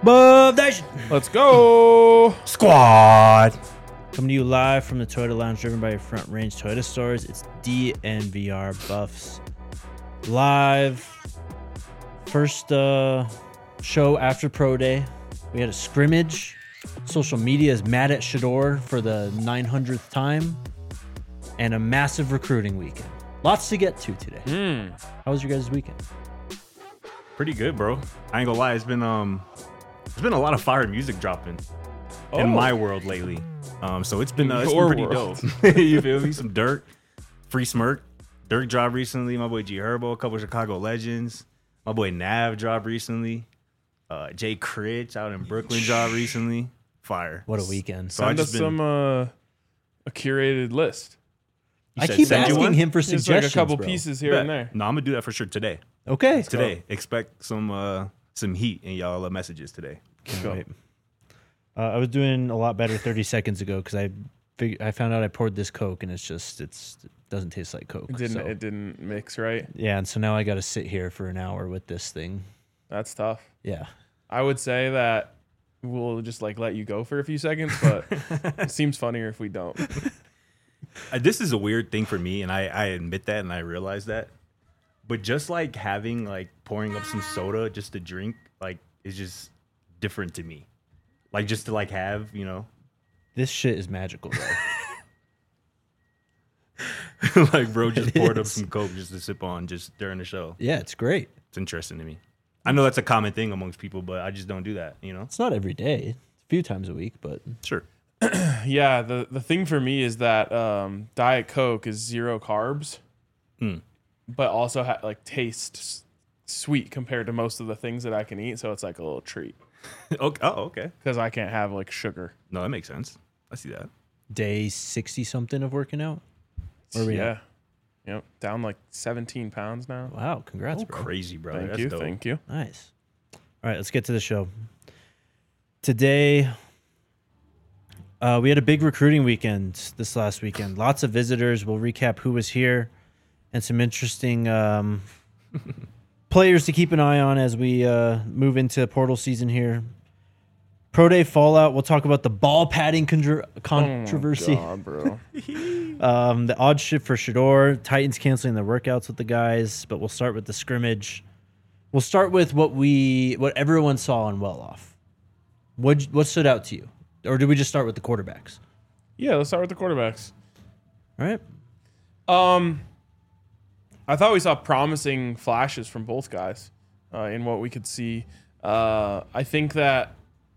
Above Nation Let's go. Squad. Coming to you live from the Toyota Lounge, driven by your Front Range Toyota stores. It's DNVR Buffs live. First show after Pro Day. We had a scrimmage. Social media is mad at Shedeur for the 900th time. And a massive recruiting weekend. Lots to get to today. How was your guys' weekend? Pretty good, bro. I ain't gonna lie. It's been a lot of fire music dropping in my world lately. So it's been pretty dope. You feel me? Some Dirk, Free Smirk. Dirk dropped recently. My boy G Herbo, a couple of Chicago legends. My boy Nav dropped recently. Jay Critch out in Brooklyn dropped recently. Fire. What a weekend. So Send us a curated list. I keep send you asking one? him for Just suggestions, like a couple bro. pieces here and there. No, I'm gonna do that for sure today. Okay. Today, expect some heat in y'all messages today. Can't wait. I was doing a lot better 30 seconds ago because I found out I poured this Coke and it doesn't taste like Coke. It didn't mix right. Yeah, and so now I got to sit here for an hour with this thing. That's tough. Yeah. I would say that we'll just let you go for a few seconds, but it seems funnier if we don't. This is a weird thing for me, and I admit that, and I realize that. But just having pouring up some soda just to drink is just different to me. Just to have, This shit is magical, bro. Bro just poured up some Coke just to sip on just during the show. Yeah, it's great. It's interesting to me. I know that's a common thing amongst people, but I just don't do that, It's not every day. It's a few times a week, but Sure. Yeah, the thing for me is that Diet Coke is 0 carbs, but also tastes sweet compared to most of the things that I can eat. So it's like a little treat Okay. Oh, okay. because I can't have sugar. No, that makes sense. I see that. day 60 something of working out. Where are we at? Yep, down 17 pounds now. Wow, congrats, bro. Crazy, bro. Thank That's you, dope. thank you. Nice. All right, let's get to the show. Today, we had a big recruiting weekend this last weekend. Lots of visitors. We'll recap who was here and some interesting players to keep an eye on as we move into portal season here. Pro Day fallout. We'll talk about the ball padding controversy. Oh, bro. The odd shift for Shedeur. Titans canceling the workouts with the guys. But we'll start with the scrimmage. We'll start with what everyone saw on Well-Off. What stood out to you? Or did we just start with the quarterbacks? Yeah, let's start with the quarterbacks. All right. I thought we saw promising flashes from both guys in what we could see. I think that,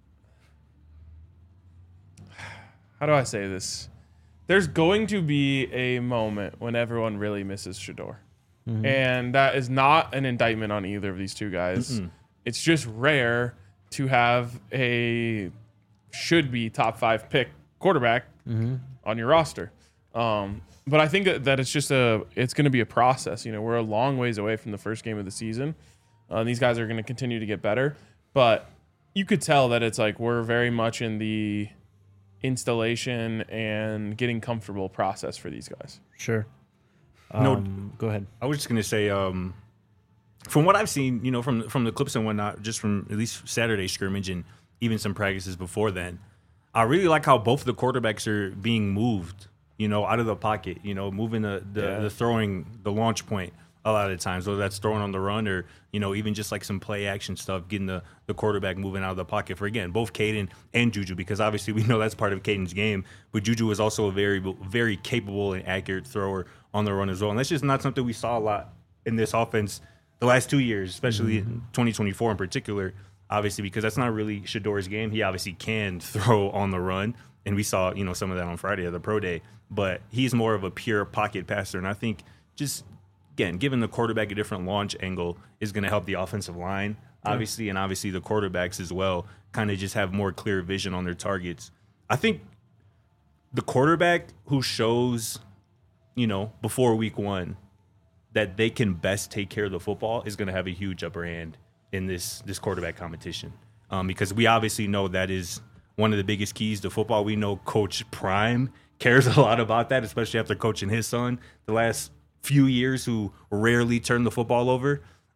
how do I say this? There's going to be a moment when everyone really misses Shedeur. And that is not an indictment on either of these two guys. It's just rare to have a should-be top 5 pick quarterback on your roster. But I think that it's just it's going to be a process. We're a long ways away from the first game of the season. These guys are going to continue to get better. But you could tell that it's we're very much in the installation and getting comfortable process for these guys. Sure. Go ahead. I was just gonna say, from what I've seen, from the clips and whatnot, just from at least Saturday scrimmage and even some practices before then, I really like how both the quarterbacks are being moved, out of the pocket, moving the throwing, the launch point a lot of the times, whether that's throwing on the run or, even just some play action stuff, getting the quarterback moving out of the pocket for, again, both Caden and Juju, because obviously we know that's part of Caden's game, but Juju is also a very, very capable and accurate thrower on the run as well. And that's just not something we saw a lot in this offense the last 2 years, especially in 2024 in particular, obviously, because that's not really Shedeur's game. He obviously can throw on the run, and we saw, some of that on Friday at the Pro Day, but he's more of a pure pocket passer. And I think just, again, giving the quarterback a different launch angle is going to help the offensive line, obviously, and obviously the quarterbacks as well, kind of just have more clear vision on their targets. I think the quarterback who shows, before week 1 that they can best take care of the football is going to have a huge upper hand in this quarterback competition, because we obviously know that is one of the biggest keys to football. We know Coach Prime cares a lot about that, especially after coaching his son the last few years, who rarely turned the football over.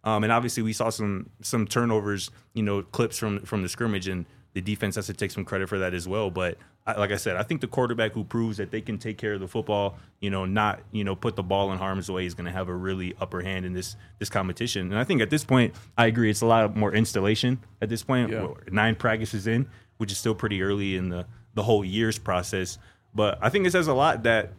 And obviously we saw some turnovers, clips from the scrimmage, and the defense has to take some credit for that as well. But like I said, I think the quarterback who proves that they can take care of the football, not put the ball in harm's way, is going to have a really upper hand in this competition. And I think at this point, I agree, it's a lot more installation at this point. Yeah. 9 practices in, which is still pretty early in the whole year's process. But I think it says a lot that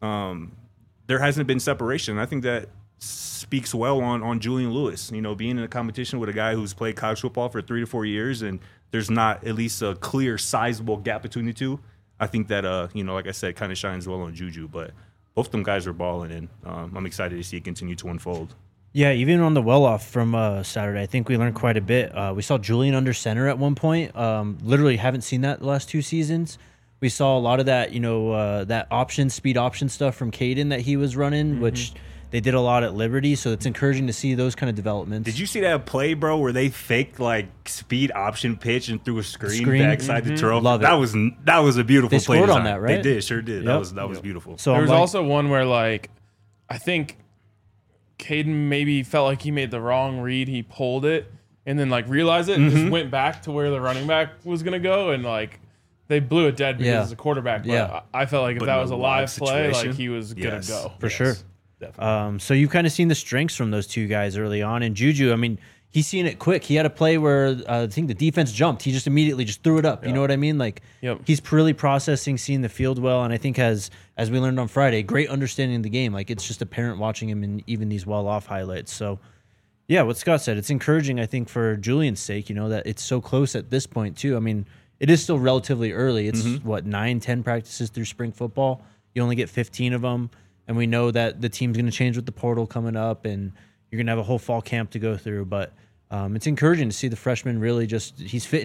there hasn't been separation. I think that speaks well on Julian Lewis, being in a competition with a guy who's played college football for 3 to 4 years, and there's not at least a clear, sizable gap between the two. I think that, like I said, kind of shines well on Juju. But both of them guys are balling, and I'm excited to see it continue to unfold. Yeah, even on the well-off from Saturday, I think we learned quite a bit. We saw Julian under center at one point. Literally haven't seen that the last 2 seasons. We saw a lot of that, that speed option stuff from Caden that he was running, which they did a lot at Liberty. So it's encouraging to see those kind of developments. Did you see that play, bro, where they faked speed option pitch and threw a screen backside to Terrell? Love it. That was a beautiful play. They scored design. on that, right? They did, sure did. Yep. That was beautiful. So there was also one where I think Caden maybe felt like he made the wrong read. He pulled it and then realized it and just went back to where the running back was gonna go, and they blew it dead because it's a quarterback. But I felt like if that was a live play, he was gonna go for sure. Definitely. So you've kind of seen the strengths from those 2 guys early on. And Juju, I mean, he's seen it quick. He had a play where I think the defense jumped. He just immediately just threw it up. You know what I mean? He's really processing, seeing the field well, and I think as we learned on Friday, great understanding of the game. It's just apparent watching him in even these well-off highlights. So, yeah, what Scott said, it's encouraging, I think, for Julian's sake, that it's so close at this point, too. I mean, it is still relatively early. It's, 9-10 practices through spring football. You only get 15 of them. And we know that the team's going to change with the portal coming up, and you're going to have a whole fall camp to go through. But it's encouraging to see the freshman really he's fitting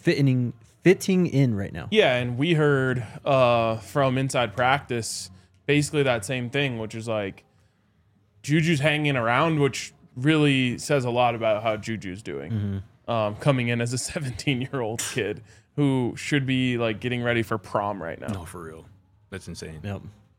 in right now. Yeah, and we heard from inside practice basically that same thing, which is Juju's hanging around, which really says a lot about how Juju's doing. Coming in as a 17-year-old kid who should be getting ready for prom right now. No, for real. That's insane. Yep.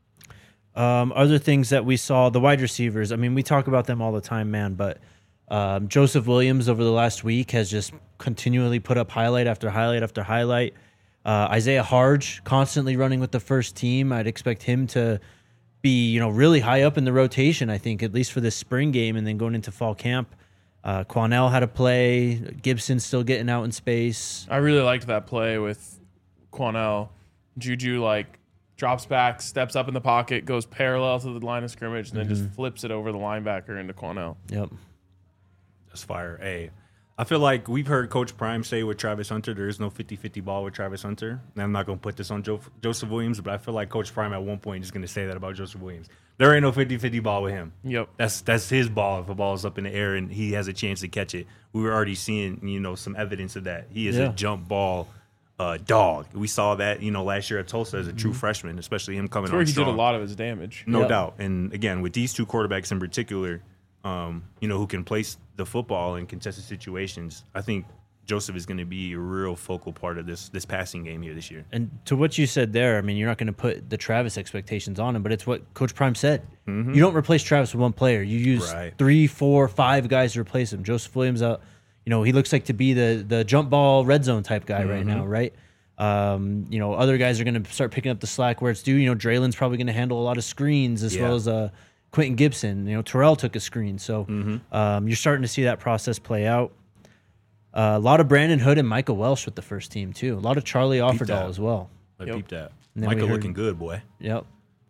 Other things that we saw, the wide receivers, I mean, we talk about them all the time, man, but Joseph Williams over the last week has just continually put up highlight after highlight after highlight. Isaiah Harge constantly running with the first team. I'd expect him to be, really high up in the rotation, I think, at least for this spring game and then going into fall camp. Quanell had a play. Gibson's still getting out in space. I really liked that play with Quanell. Juju, drops back, steps up in the pocket, goes parallel to the line of scrimmage, and then just flips it over the linebacker into Quanell. Yep. That's fire. Hey, I feel like we've heard Coach Prime say with Travis Hunter, there is no 50-50 ball with Travis Hunter. And I'm not going to put this on Joseph Williams, but I feel like Coach Prime at one point is going to say that about Joseph Williams. There ain't no 50-50 ball with him. Yep. That's his ball if a ball is up in the air and he has a chance to catch it. We were already seeing, some evidence of that. He is a jump ball dog. We saw that, last year at Tulsa as a true freshman, especially him coming on That's where he strong. did a lot of his damage. No doubt. And again, with these 2 quarterbacks in particular, who can place the football in contested situations, I think Joseph is going to be a real focal part of this passing game here this year. And to what you said there, I mean, you're not going to put the Travis expectations on him, but it's what Coach Prime said. You don't replace Travis with one player. You use 3, 4, 5 guys to replace him. Joseph Williams, he looks like to be the jump ball red zone type guy right now, right? Other guys are going to start picking up the slack where it's due. Draylen's probably going to handle a lot of screens as well as Quentin Gibson. Terrell took a screen. So you're starting to see that process play out. A lot of Brandon Hood and Michael Welsh with the first team, too. A lot of Charlie Offerdahl as well. I peeped that. then Michael we heard- looking good, boy. Yep.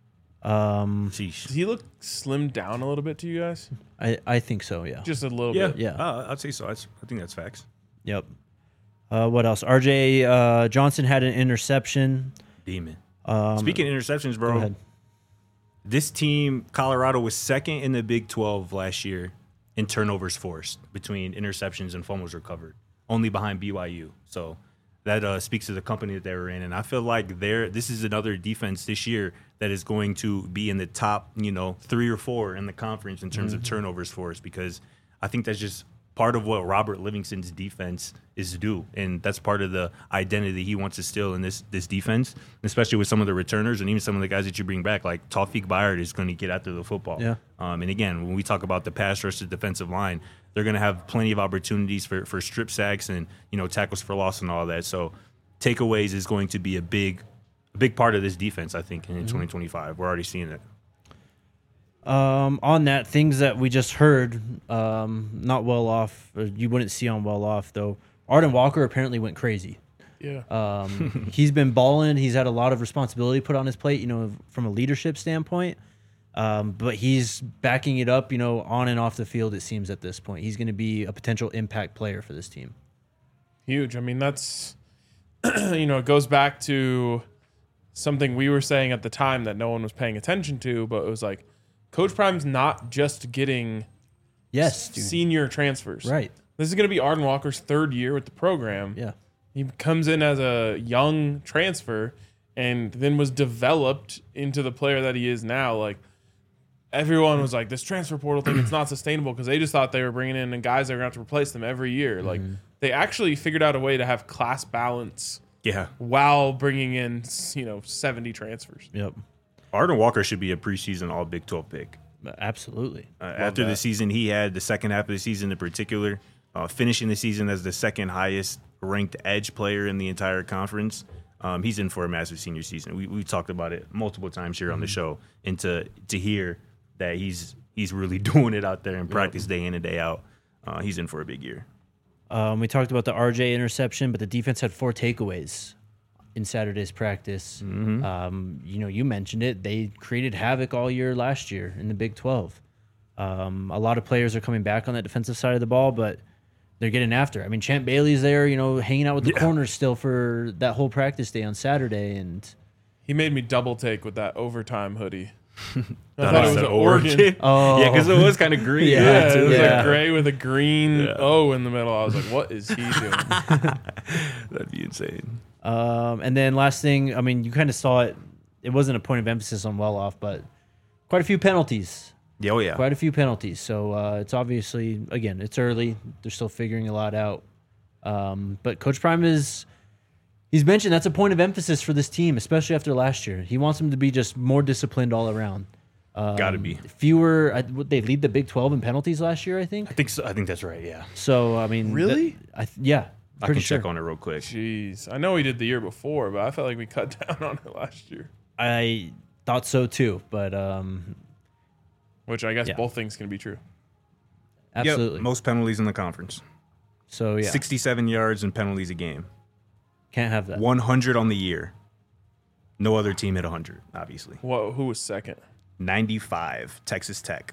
Sheesh. Does he look slimmed down a little bit to you guys? I think so, yeah. Just a little Yeah, bit. Yeah. I'd say so. I think that's facts. Yep. What else? RJ Johnson had an interception. Demon. Speaking of interceptions, Go bro, ahead. this team, Colorado, was second in the Big 12 last year in turnovers forced between interceptions and fumbles recovered, only behind BYU. So that speaks to the company that they were in. And I feel like this is another defense this year that is going to be in the top, 3 or 4 in the conference in terms of turnovers forced, because I think that's just part of what Robert Livingston's defense is due, and that's part of the identity he wants to instill in this defense, especially with some of the returners and even some of the guys that you bring back. Like Tawfiq Bayard is going to get after the football. Yeah. And again, when we talk about the pass rush to defensive line, they're going to have plenty of opportunities for strip sacks and, tackles for loss and all that. So takeaways is going to be a big part of this defense, I think, in 2025. We're already seeing it. On that, things that we just heard, not well off, or you wouldn't see on well off, though. Arden Walker apparently went crazy. Yeah. He's been balling. He's had a lot of responsibility put on his plate, from a leadership standpoint. But he's backing it up, on and off the field, it seems, at this point. He's going to be a potential impact player for this team. Huge. I mean, that's, it goes back to something we were saying at the time that no one was paying attention to, but it was like, Coach Prime's not just getting senior transfers. Right. This is going to be Arden Walker's third year with the program. Yeah. He comes in as a young transfer and then was developed into the player that he is now. Like, everyone was like, this transfer portal thing, it's not sustainable, because they just thought they were bringing in guys that were going to have to replace them every year. Like, they actually figured out a way to have class balance while bringing in, 70 transfers. Yep. Arden Walker should be a preseason All Big 12 pick. Absolutely. After the season he had, the second half of the season in particular, finishing the season as the second highest ranked edge player in the entire conference, he's in for a massive senior season. We talked about it multiple times here on the show, and to hear that he's really doing it out there in practice day in and day out, he's in for a big year. We talked about the RJ interception, but the defense had 4 takeaways in Saturday's practice. You mentioned it. They created havoc all year last year in the Big 12. A lot of players are coming back on that defensive side of the ball, but they're getting after it. I mean, Champ Bailey's there, hanging out with the corners still for that whole practice day on Saturday. And he made me double take with that overtime hoodie. I thought it was an Oregon. Oh. Yeah, because it was kind of green. Yeah, it was like gray with a green O in the middle. I was like, what is he doing? That'd be insane. And then last thing, I mean, you kind of saw it. It wasn't a point of emphasis on well off, but quite a few penalties. Yeah, oh yeah. Quite a few penalties. So it's obviously, again, it's early. They're still figuring a lot out. But Coach Prime he's mentioned that's a point of emphasis for this team, especially after last year. He wants them to be just more disciplined all around. Gotta be. Fewer, they lead the Big 12 in penalties last year, I think? I think so. I think that's right, yeah. So, I mean. Really? Yeah. I can check on it real quick. Jeez. I know we did the year before, but I felt like we cut down on it last year. I thought so too, but. Which I guess both things can be true. Absolutely. Yep, most penalties in the conference. So, yeah. 67 yards and penalties a game. Can't have that. 100 on the year. No other team hit 100, obviously. Who was second? 95, Texas Tech.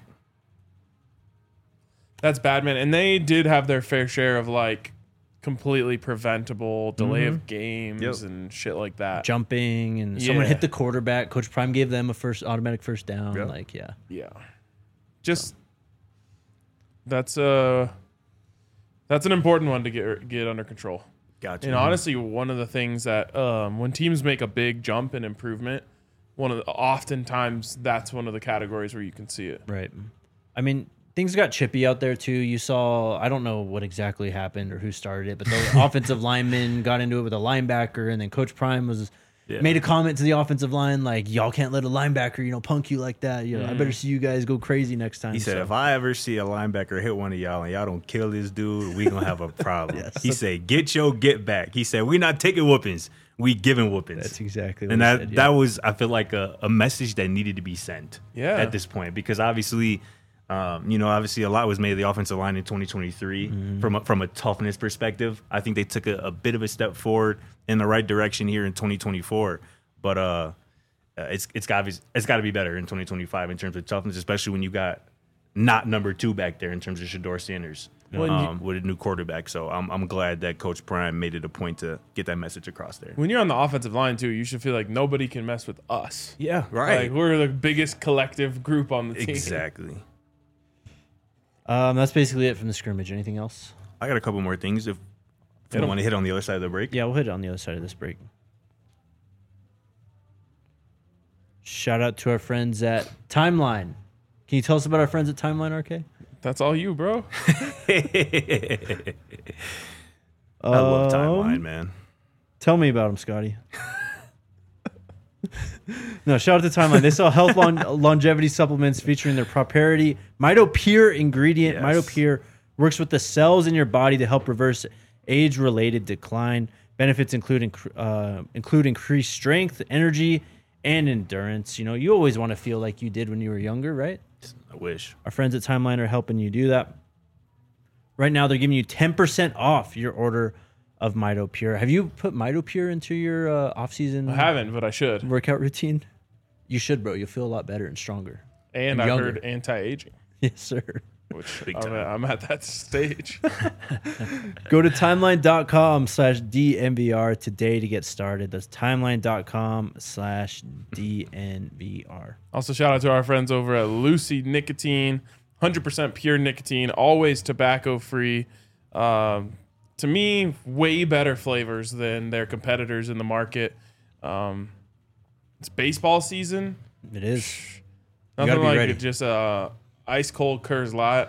That's bad, man. And they did have their fair share of completely preventable delay of games and shit like that. Jumping and someone hit the quarterback. Coach Prime gave them a automatic first down. Yep. Yeah. Just that's an important one to get under control. Gotcha. And honestly, one of the things that when teams make a big jump in improvement, oftentimes that's one of the categories where you can see it. Right. I mean, things got chippy out there too. You saw, I don't know what exactly happened or who started it, but the offensive lineman got into it with a linebacker, and then Coach Prime made a comment to the offensive line like, "Y'all can't let a linebacker, punk you like that. I better see you guys go crazy next time." He said, "If I ever see a linebacker hit one of y'all and y'all don't kill this dude, we gonna have a problem." He said, "Get back." He said, "We not taking whoopings. We giving whoopings." That's exactly what and he that said, that was, I feel like, a message that needed to be sent at this point, because obviously, obviously a lot was made of the offensive line in 2023 from a toughness perspective. I think they took a bit of a step forward in the right direction here in 2024, but it's got to be better in 2025 in terms of toughness, especially when you got not number 2 back there in terms of Shedeur Sanders with a new quarterback. So I'm glad that Coach Prime made it a point to get that message across there. When you're on the offensive line too, you should feel like nobody can mess with us. Yeah, right. Like, we're the biggest collective group on the team. Exactly. That's basically it from the scrimmage. Anything else? I got a couple more things if we want to hit on the other side of the break. Yeah, we'll hit it on the other side of this break. Shout out to our friends at Timeline. Can you tell us about our friends at Timeline, RK? That's all you, bro. I love Timeline, man. Tell me about them, Scotty. No, shout out to Timeline. They sell longevity supplements featuring their proprietary MitoPure ingredient, Yes. MitoPure Works with the cells in your body to help reverse age-related decline. Benefits include increased strength, energy, and endurance. You know, you always want to feel like you did when you were younger, right? I wish. Our friends at Timeline are helping you do that. Right now, they're giving you 10% off your order of Mito Pure. Have you put Mito Pure into your off-season I haven't, but I should. workout routine? You should, bro. You'll feel a lot better and stronger. And I younger. heard anti-aging, Yes, sir. which Big I'm time. I'm at that stage. Go to timeline.com/DNVR today to get started. That's timeline.com/DNVR. Also, shout out to our friends over at Lucy Nicotine, 100% pure nicotine, always tobacco-free. To me, way better flavors than their competitors in the market. It's baseball season. It is. Nothing gotta be like ready. it, just a ice cold Coors Light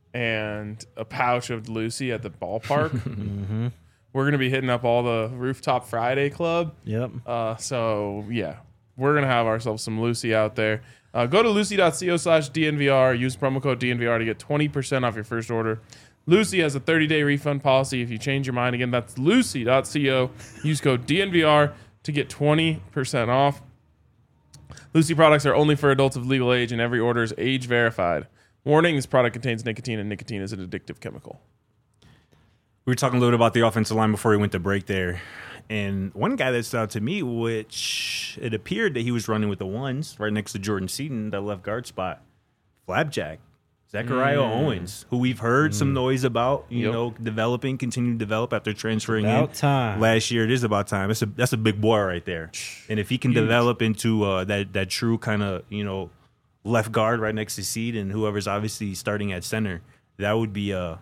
and a pouch of Lucy at the ballpark. Mm-hmm. We're gonna be hitting up all the Rooftop Friday Club. Yep. So yeah, we're gonna have ourselves some Lucy out there. Go to lucy.co/DNVR. Use promo code DNVR to get 20% off your first order. Lucy has a 30-day refund policy if you change your mind. Again, that's lucy.co. Use code DNVR to get 20% off. Lucy products are only for adults of legal age, and every order is age verified. Warning: this product contains nicotine, and nicotine is an addictive chemical. We were talking a little bit about the offensive line before we went to break there. And one guy that stood out to me, which it appeared that he was running with the ones right next to Jordan Seaton, that left guard spot, Flapjack. Zachariah Owens, who we've heard some noise about, you know, developing, continuing to develop after transferring About in time. last year. It is about time. That's a big boy right there. And if he can develop into that true kind of, you know, left guard right next to Seed and whoever's obviously starting at center, that would be a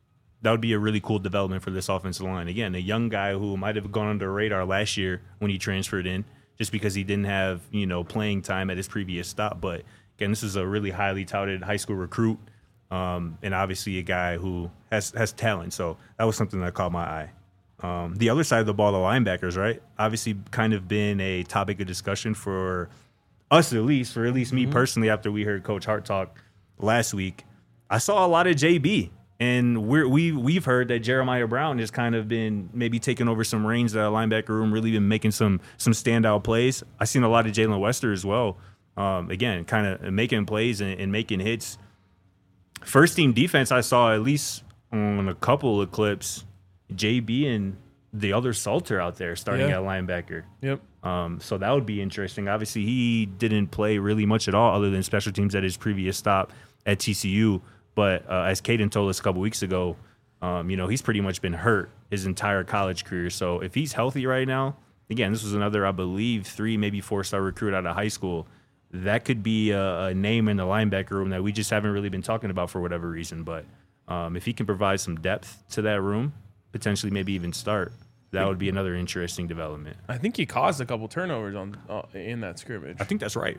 really cool development for this offensive line. Again, a young guy who might have gone under the radar last year when he transferred in, just because he didn't have, you know, playing time at his previous stop. But again, this is a really highly touted high school recruit, and obviously a guy who has talent. So that was something that caught my eye. The other side of the ball, the linebackers, right? Obviously kind of been a topic of discussion for us, at least me personally, after we heard Coach Hart talk last week. I saw a lot of JB. And we've heard that Jeremiah Brown has kind of been maybe taking over some reins at our linebacker room, really been making some standout plays. I've seen a lot of Jalen Wester as well. Again, kind of making plays and making hits. First team defense, I saw at least on a couple of clips, JB and the other Salter out there starting at linebacker. Yep. So that would be interesting. Obviously, he didn't play really much at all other than special teams at his previous stop at TCU. But as Caden told us a couple weeks ago, you know, he's pretty much been hurt his entire college career. So if he's healthy right now, again, this was another, I believe, 3, maybe 4-star recruit out of high school. That could be a name in the linebacker room that we just haven't really been talking about for whatever reason. But if he can provide some depth to that room, potentially maybe even start, that would be another interesting development. I think he caused a couple turnovers in that scrimmage. I think that's right.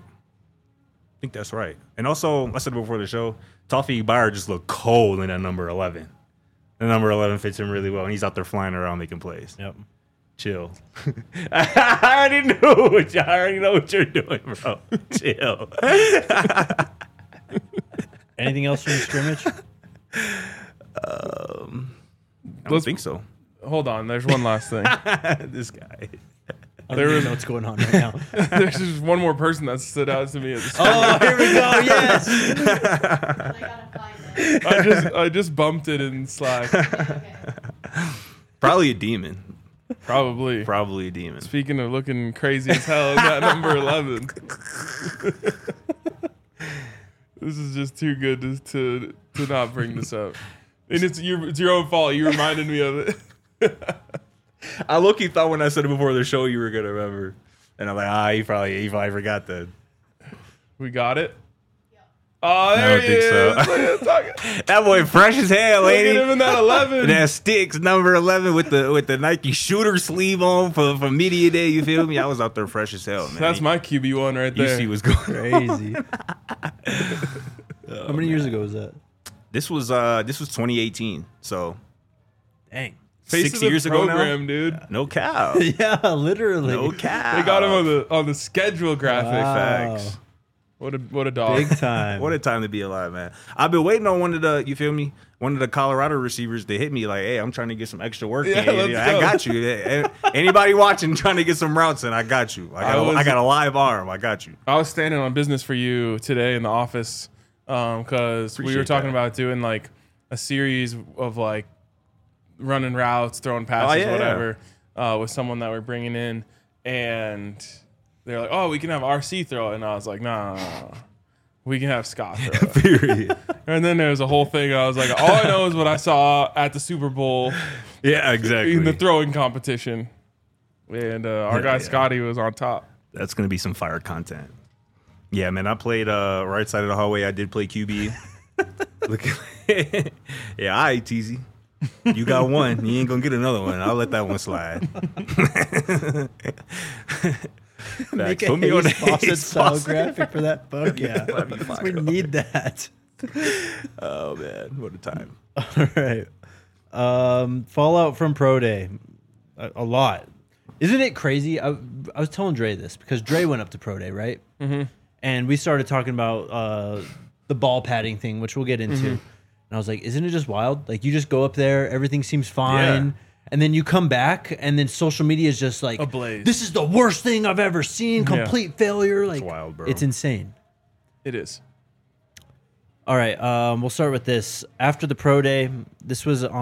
And also, I said before the show, Toffee Byer just looked cold in that number 11. The number 11 fits him really well, and he's out there flying around making plays. Yep. Chill. I already know what you're doing, bro. Chill. Anything else from the scrimmage? I don't think so. Hold on, there's one last thing. This guy. I don't even know what's going on right now. There's just one more person that stood out to me at the Oh, here we go. Yes. I gotta find it. I just bumped it in Slack. Okay. Probably a demon. Probably. Probably a demon. Speaking of looking crazy as hell, is that number 11? This is just too good to not bring this up. And it's your own fault. You reminded me of it. I low-key thought when I said it before the show you were going to remember. And I'm like, he probably forgot that. We got it? Yeah. Oh, I there don't he think is. so. Look at him talking. That boy fresh as hell, Look lady. at him in that 11. That sticks number 11 with the Nike shooter sleeve on for media day. You feel me? I was out there fresh as hell, man. That's my QB1 right You there. see what's going on. Crazy. How many years ago was that? This was 2018. So Dang. Face 6 of the years ago now. program, dude. No cow. Yeah, literally. No cow. They got him on the schedule graphic. Wow. Facts. What a dog. Big time. What a time to be alive, man. I've been waiting on one of the Colorado receivers to hit me like, hey, I'm trying to get some extra work in. let's I go. got you. Anybody watching trying to get some routes in, I got you. I got a live arm. I got you. I was standing on business for you today in the office because we were Appreciate talking that. about doing like a series of like running routes, throwing passes, whatever, with someone that we're bringing in. And they're like, oh, we can have RC throw it. And I was like, no. We can have Scott throw it. Period. And then there was a whole thing. I was like, all I know is what I saw at the Super Bowl Yeah, exactly. in the throwing competition. And our guy Yeah. Scotty was on top. That's gonna be some fire content. Yeah, man. I played right side of the hallway. I did play QB. Look, yeah, all right, Teasy. You got one. You ain't gonna get another one. I'll let that one slide. Make Put me on the Fawcett Hayes style Fawcett. graphic for that book. Yeah, Let me fire we up. need that. Oh man, what a time. All right. Fallout from Pro Day. A lot. Isn't it crazy? I was telling Dre this because Dre went up to Pro Day, right? Mm-hmm. And we started talking about the ball padding thing, which we'll get into. And I was like, isn't it just wild? Like, you just go up there, everything seems fine. Yeah. And then you come back, and then social media is just like, Ablaze. this is the worst thing I've ever seen. Complete failure. Like, wild, bro. It's insane. It is. All right, we'll start with this. After the Pro Day, this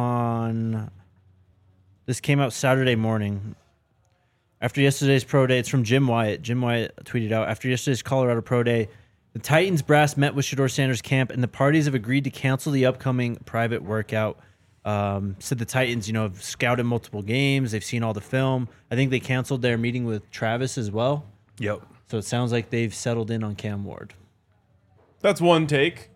came out Saturday morning. After yesterday's Pro Day, it's from Jim Wyatt. Jim Wyatt tweeted out, after yesterday's Colorado Pro Day, the Titans brass met with Shedeur Sanders' camp, and the parties have agreed to cancel the upcoming private workout. Said the Titans, have scouted multiple games. They've seen all the film. I think they canceled their meeting with Travis as well. Yep. So it sounds like they've settled in on Cam Ward. That's one take.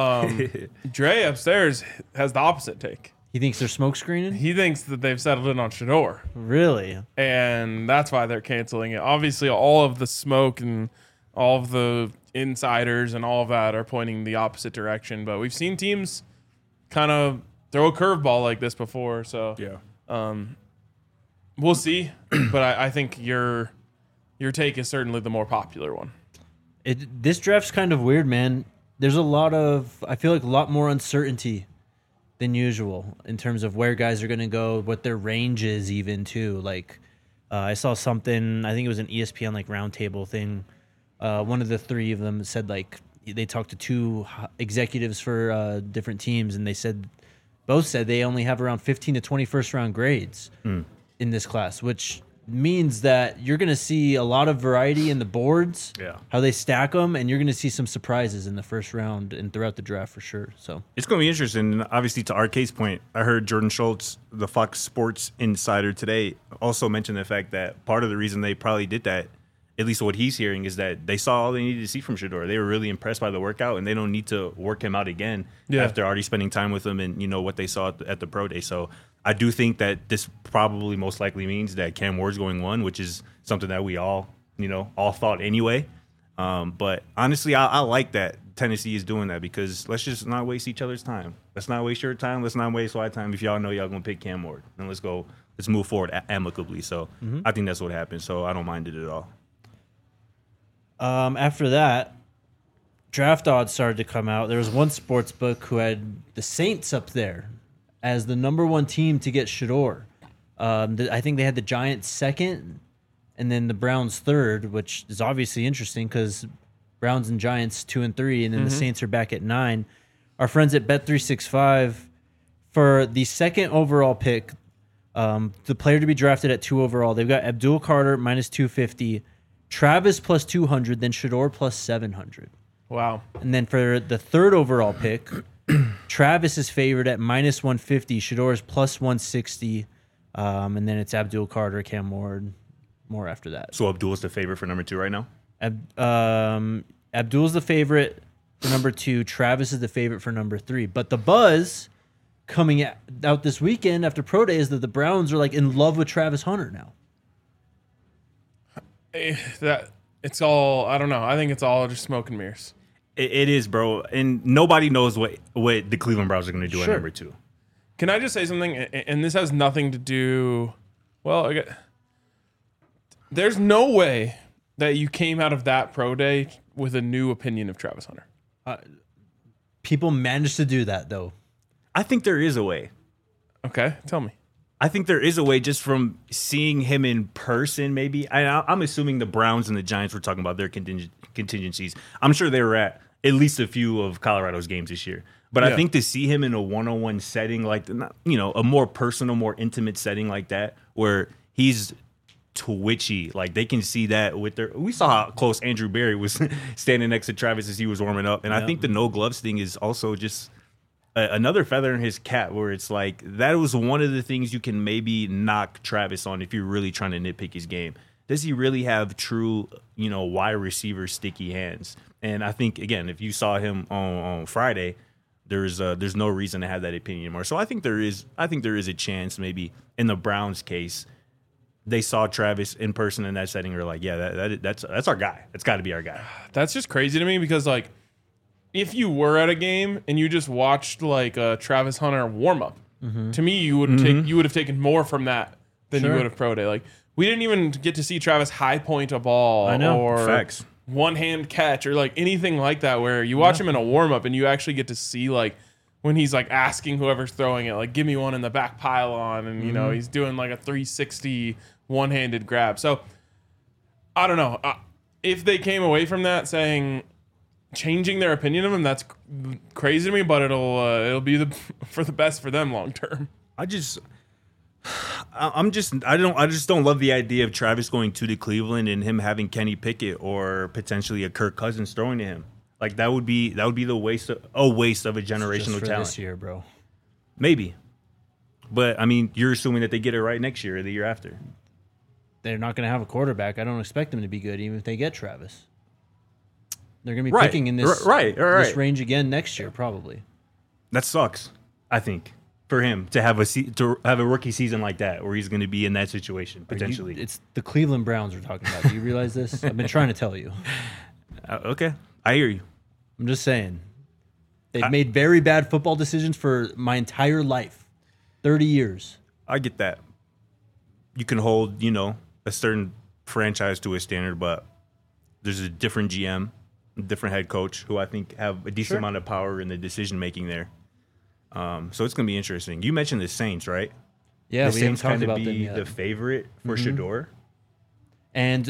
Dre upstairs has the opposite take. He thinks they're smoke screening? He thinks that they've settled in on Shedeur. Really? And that's why they're canceling it. Obviously, all of the smoke and all of the insiders and all of that are pointing the opposite direction. But we've seen teams kind of throw a curveball like this before. So Yeah. we'll see. But I think your take is certainly the more popular one. This draft's kind of weird, man. There's I feel like a lot more uncertainty than usual in terms of where guys are going to go, what their range is even too. Like I saw something, I think it was an ESPN like roundtable thing. One of the three of them said like they talked to two executives for different teams, and both said they only have around 15 to 21st round grades in this class, which means that you're going to see a lot of variety in the boards, how they stack them, and you're going to see some surprises in the first round and throughout the draft for sure. So It's going to be interesting. And obviously, to our case point, I heard Jordan Schultz, the Fox Sports insider today, also mention the fact that part of the reason they probably did that, at least what he's hearing, is that they saw all they needed to see from Shedeur. They were really impressed by the workout, and they don't need to work him out again after already spending time with him and what they saw at the Pro Day. So I do think that this probably most likely means that Cam Ward's going one, which is something that we all thought anyway. But honestly, I like that Tennessee is doing that, because let's just not waste each other's time. Let's not waste your time. Let's not waste my time. If y'all know y'all going to pick Cam Ward, and let's move forward amicably. So I think that's what happened. So I don't mind it at all. after that, draft odds started to come out. There was one sports book who had the Saints up there as the number one team to get Shedeur. I think they had the Giants second, and then the Browns third, which is obviously interesting because Browns and Giants 2 and 3, and then the Saints are back at 9. Our friends at Bet365, for the second overall pick, the player to be drafted at 2 overall, they've got Abdul Carter minus 250, Travis plus 200, then Shedeur plus 700. Wow. And then for the third overall pick, Travis is favored at minus 150, Shedeur is plus 160, and then it's Abdul Carter, Cam Ward, more after that. So Abdul's the favorite for number 2 right now? Abdul's the favorite for number 2. Travis is the favorite for number 3. But the buzz coming out this weekend after Pro Day is that the Browns are like in love with Travis Hunter now. It's all, I don't know. I think it's all just smoke and mirrors. It is, bro. And nobody knows what the Cleveland Browns are going to do at number 2. Can I just say something? And this has nothing to do, well, there's no way that you came out of that Pro Day with a new opinion of Travis Hunter? People manage to do that though. I think there is a way. Okay, tell me. I think there is a way just from seeing him in person, maybe. I'm assuming the Browns and the Giants were talking about their contingencies. I'm sure they were at least a few of Colorado's games this year. But I think to see him in a one-on-one setting, like, a more personal, more intimate setting like that, where he's twitchy, like they can see that with their. We saw how close Andrew Berry was standing next to Travis as he was warming up, and I think the no gloves thing is also just another feather in his cap, where it's like that was one of the things you can maybe knock Travis on if you're really trying to nitpick his game. Does he really have true, wide receiver sticky hands? And I think again, if you saw him on Friday, there's no reason to have that opinion anymore. So I think there is a chance maybe in the Browns case. They saw Travis in person in that setting. They're like, yeah, that's our guy. That's got to be our guy. That's just crazy to me because, like, if you were at a game and you just watched like a Travis Hunter warm up, to me you would have taken more from that than you would have pro day. Like, we didn't even get to see Travis high point a ball or Facts. one hand catch or like anything like that. Where you watch him in a warm up and you actually get to see like when he's like asking whoever's throwing it, like, give me one in the back pylon, and he's doing like a 360 one-handed grab. So I don't know if they came away from that saying changing their opinion of him. That's crazy to me, but it'll be for the best for them long term. I just don't love the idea of Travis going to Cleveland and him having Kenny Pickett or potentially a Kirk Cousins throwing to him. Like that would be the waste of a generational Just for talent this year, bro. Maybe, but I mean, you're assuming that they get it right next year or the year after. They're not going to have a quarterback. I don't expect them to be good, even if they get Travis. They're going to be Right. picking in this this range again next year, probably. That sucks. I think for him to have a rookie season like that, where he's going to be in that situation potentially. It's the Cleveland Browns we're talking about. Do you realize this? I've been trying to tell you. Okay, I hear you. I'm just saying. They've made very bad football decisions for my entire life, 30 years. I get that. You can hold, a certain franchise to a standard, but there's a different GM, a different head coach who I think have a decent amount of power in the decision making there. So it's going to be interesting. You mentioned the Saints, right? Yeah, the we Saints haven't talked about be them yet. the favorite for Shador. And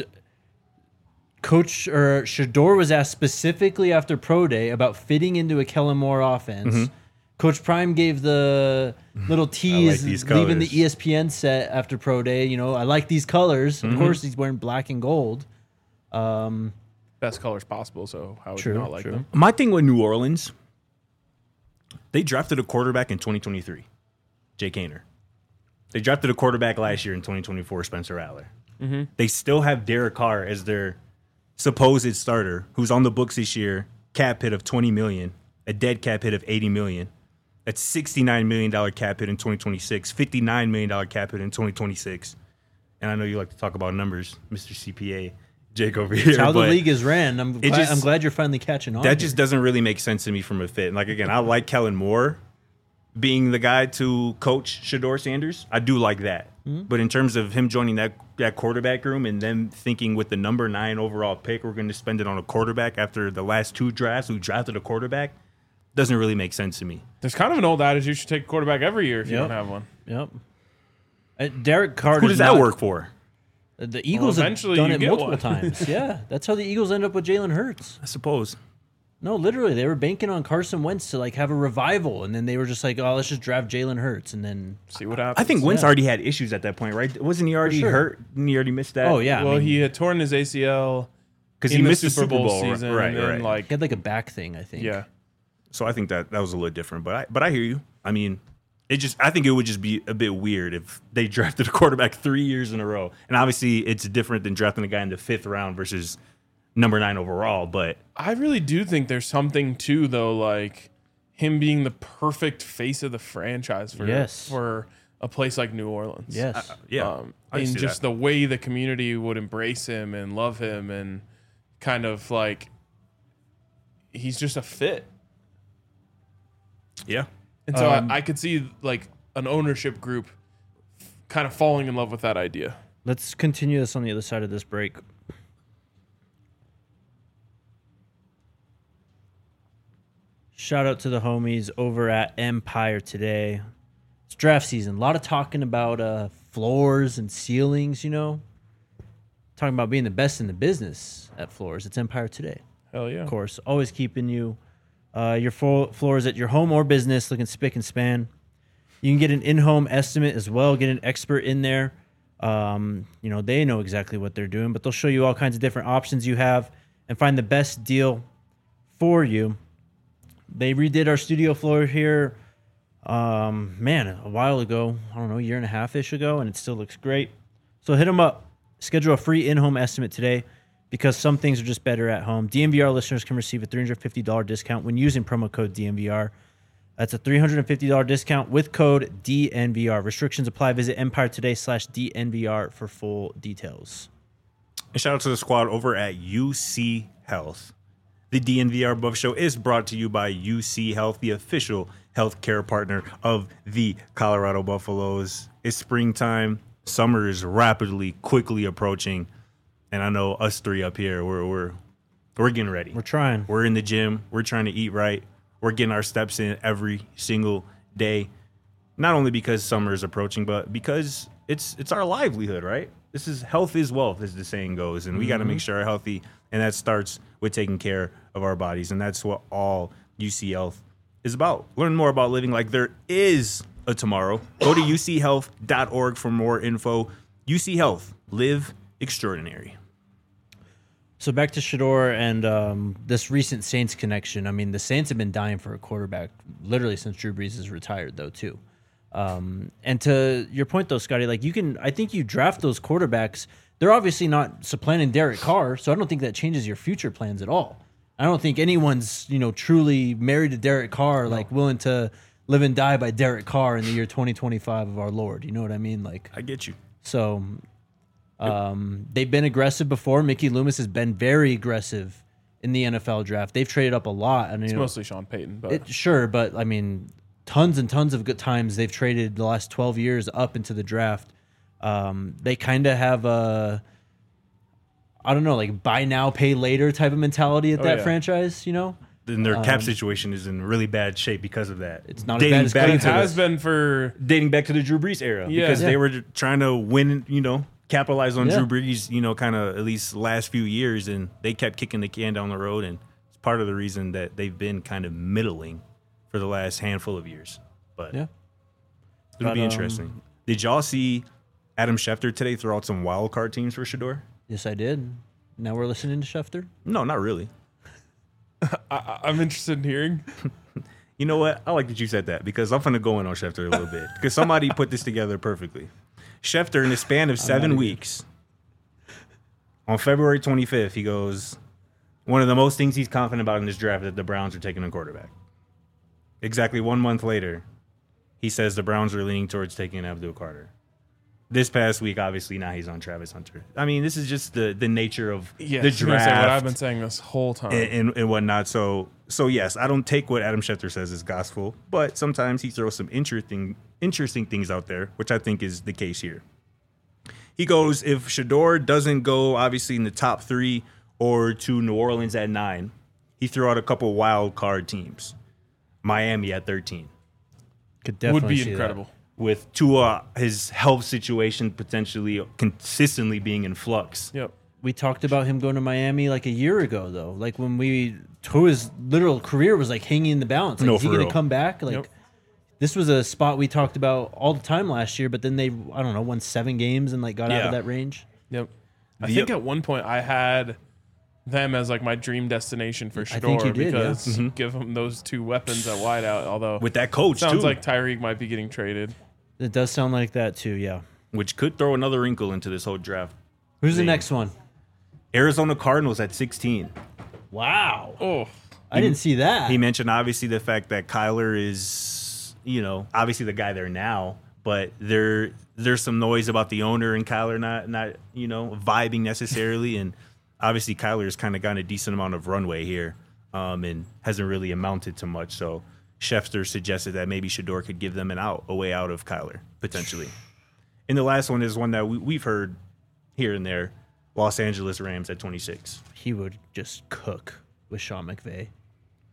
Coach Shador was asked specifically after Pro Day about fitting into a Kellen Moore offense. Coach Prime gave the little tease leaving the ESPN set after Pro Day. I like these colors. Of course, he's wearing black and gold. Best colors possible, so how would you not like them? My thing with New Orleans, they drafted a quarterback in 2023, Jake Haener. They drafted a quarterback last year in 2024, Spencer Rattler. They still have Derek Carr as their supposed starter, who's on the books this year, cap hit of $20 million, a dead cap hit of $80 million. That's $69 million cap hit in 2026, $59 million cap hit in 2026. And I know you like to talk about numbers, Mr. CPA, Jake over here. It's how the league is ran. I'm just- glad you're finally catching on. That just doesn't really make sense to me from a fit. And like, again, I like Kellen Moore being the guy to coach Shador Sanders. I do like that. But in terms of him joining that quarterback room and then thinking with the number 9 overall pick, we're going to spend it on a quarterback after the last 2 drafts who drafted a quarterback, doesn't really make sense to me. There's kind of an old adage you should take a quarterback every year if you don't have one. Yep. Derek Carr. Who does that work for? The Eagles have eventually done you it get multiple one. times. Yeah, that's how the Eagles end up with Jalen Hurts. I suppose. No, literally, they were banking on Carson Wentz to have a revival, and then they were just like, "Oh, let's just draft Jalen Hurts," and then See what happens. I think Wentz already had issues at that point, right? Wasn't he already hurt? Didn't he already missed that? Oh yeah, Well, he had torn his ACL because in he the missed Super Bowl right? season, Right, and then, right. he had a back thing, I think. yeah. So I think that was a little different, but I hear you. I mean, I think it would just be a bit weird if they drafted a quarterback 3 years in a row, and obviously it's different than drafting a guy in the 5th round versus number 9 overall. But I really do think there's something too, though, like him being the perfect face of the franchise for a place like New Orleans. Yes. I And see just that. the way the community would embrace him and love him, and kind of like he's just a fit. Yeah. And so I could see like an ownership group kind of falling in love with that idea. Let's continue this on the other side of this break. Shout out to the homies over at Empire today. It's draft season. A lot of talking about floors and ceilings, you know. Talking about being the best in the business at floors. It's Empire today. Hell yeah. Of course. Always keeping you your floors at your home or business looking spick and span. You can get an in-home estimate as well. Get an expert in there. You know, they know exactly what they're doing, but they'll show you all kinds of different options you have and find the best deal for you. They redid our studio floor here, a while ago. I don't know, a year and a half-ish ago, and it still looks great. So hit them up. Schedule a free in-home estimate today because some things are just better at home. DNVR listeners can receive a $350 discount when using promo code DNVR. That's a $350 discount with code DNVR. Restrictions apply. Visit empiretoday.com/DNVR for full details. And shout out to the squad over at UC Health. The DNVR Buff Show is brought to you by UC Health, the official healthcare partner of the Colorado Buffaloes. It's springtime. Summer is quickly approaching. And I know us three up here, we're getting ready. We're trying. We're in the gym. We're trying to eat right. We're getting our steps in every single day. Not only because summer is approaching, but because it's our livelihood, right? This is health is wealth, as the saying goes, and we got to make sure we're healthy, and that starts with taking care of our bodies, and that's what all UC Health is about. Learn more about living like there is a tomorrow. Go to uchealth.org for more info. UC Health, live extraordinary. So back to Shedeur and this recent Saints connection. I mean, the Saints have been dying for a quarterback literally since Drew Brees is retired, though, too. And to your point, though, Scotty, like I think you draft those quarterbacks. They're obviously not supplanting Derek Carr, so I don't think that changes your future plans at all. I don't think anyone's, truly married to Derek Carr, like willing to live and die by Derek Carr in the year 2025 of our Lord. You know what I mean? Like, I get you. So they've been aggressive before. Mickey Loomis has been very aggressive in the NFL draft. They've traded up a lot. And, It's mostly Sean Payton. But but I mean, tons and tons of good times they've traded the last 12 years up into the draft. They kind of have a, I don't know, like buy now, pay later type of mentality at that franchise, And their cap situation is in really bad shape because of that. It's not as bad as Cleveland. it has been for dating back to the Drew Brees era because they were trying to win, capitalize on Drew Brees, kind of at least last few years, and they kept kicking the can down the road, and it's part of the reason that they've been kind of middling for the last handful of years. But it'll be interesting. Did y'all see Adam Schefter today throw out some wild card teams for Shedeur? Yes, I did. Now we're listening to Schefter? No, not really. I'm interested in hearing. You know what? I like that you said that because I'm going to go in on Schefter a little bit because somebody put this together perfectly. Schefter, in the span of 7 weeks, on February 25th, he goes, one of the most things he's confident about in this draft is that the Browns are taking a quarterback. Exactly 1 month later, he says the Browns are leaning towards taking Abdul Carter. This past week, obviously, now he's on Travis Hunter. I mean, this is just the nature of the draft. What I've been saying this whole time. And whatnot. So yes, I don't take what Adam Schefter says as gospel, but sometimes he throws some interesting things out there, which I think is the case here. He goes, if Shedeur doesn't go, obviously, in the top 3 or to New Orleans at 9, he threw out a couple wild card teams. Miami at 13. Could definitely would be see incredible. That. With Tua, his health situation potentially consistently being in flux. Yep. We talked about him going to Miami like a year ago, though. Like when Tua's literal career was like hanging in the balance. Like, is he going to come back? Like this was a spot we talked about all the time last year, but then they, I don't know, won 7 games and like got out of that range. Yep. I think at one point I had them as like my dream destination for Shedeur. I think you did, because give him those 2 weapons at wideout. Although with that coach, sounds too. like Tyreek might be getting traded. It does sound like that too, yeah. Which could throw another wrinkle into this whole draft. Who's the next one? Arizona Cardinals at 16. Wow. Oh, I didn't see that. He mentioned obviously the fact that Kyler is, obviously the guy there now, but there's some noise about the owner and Kyler not vibing necessarily, and obviously Kyler's kind of gotten a decent amount of runway here, and hasn't really amounted to much. So Schefter suggested that maybe Shedeur could give them a way out of Kyler, potentially. And the last one is one that we've heard here and there, Los Angeles Rams at 26. He would just cook with Sean McVay.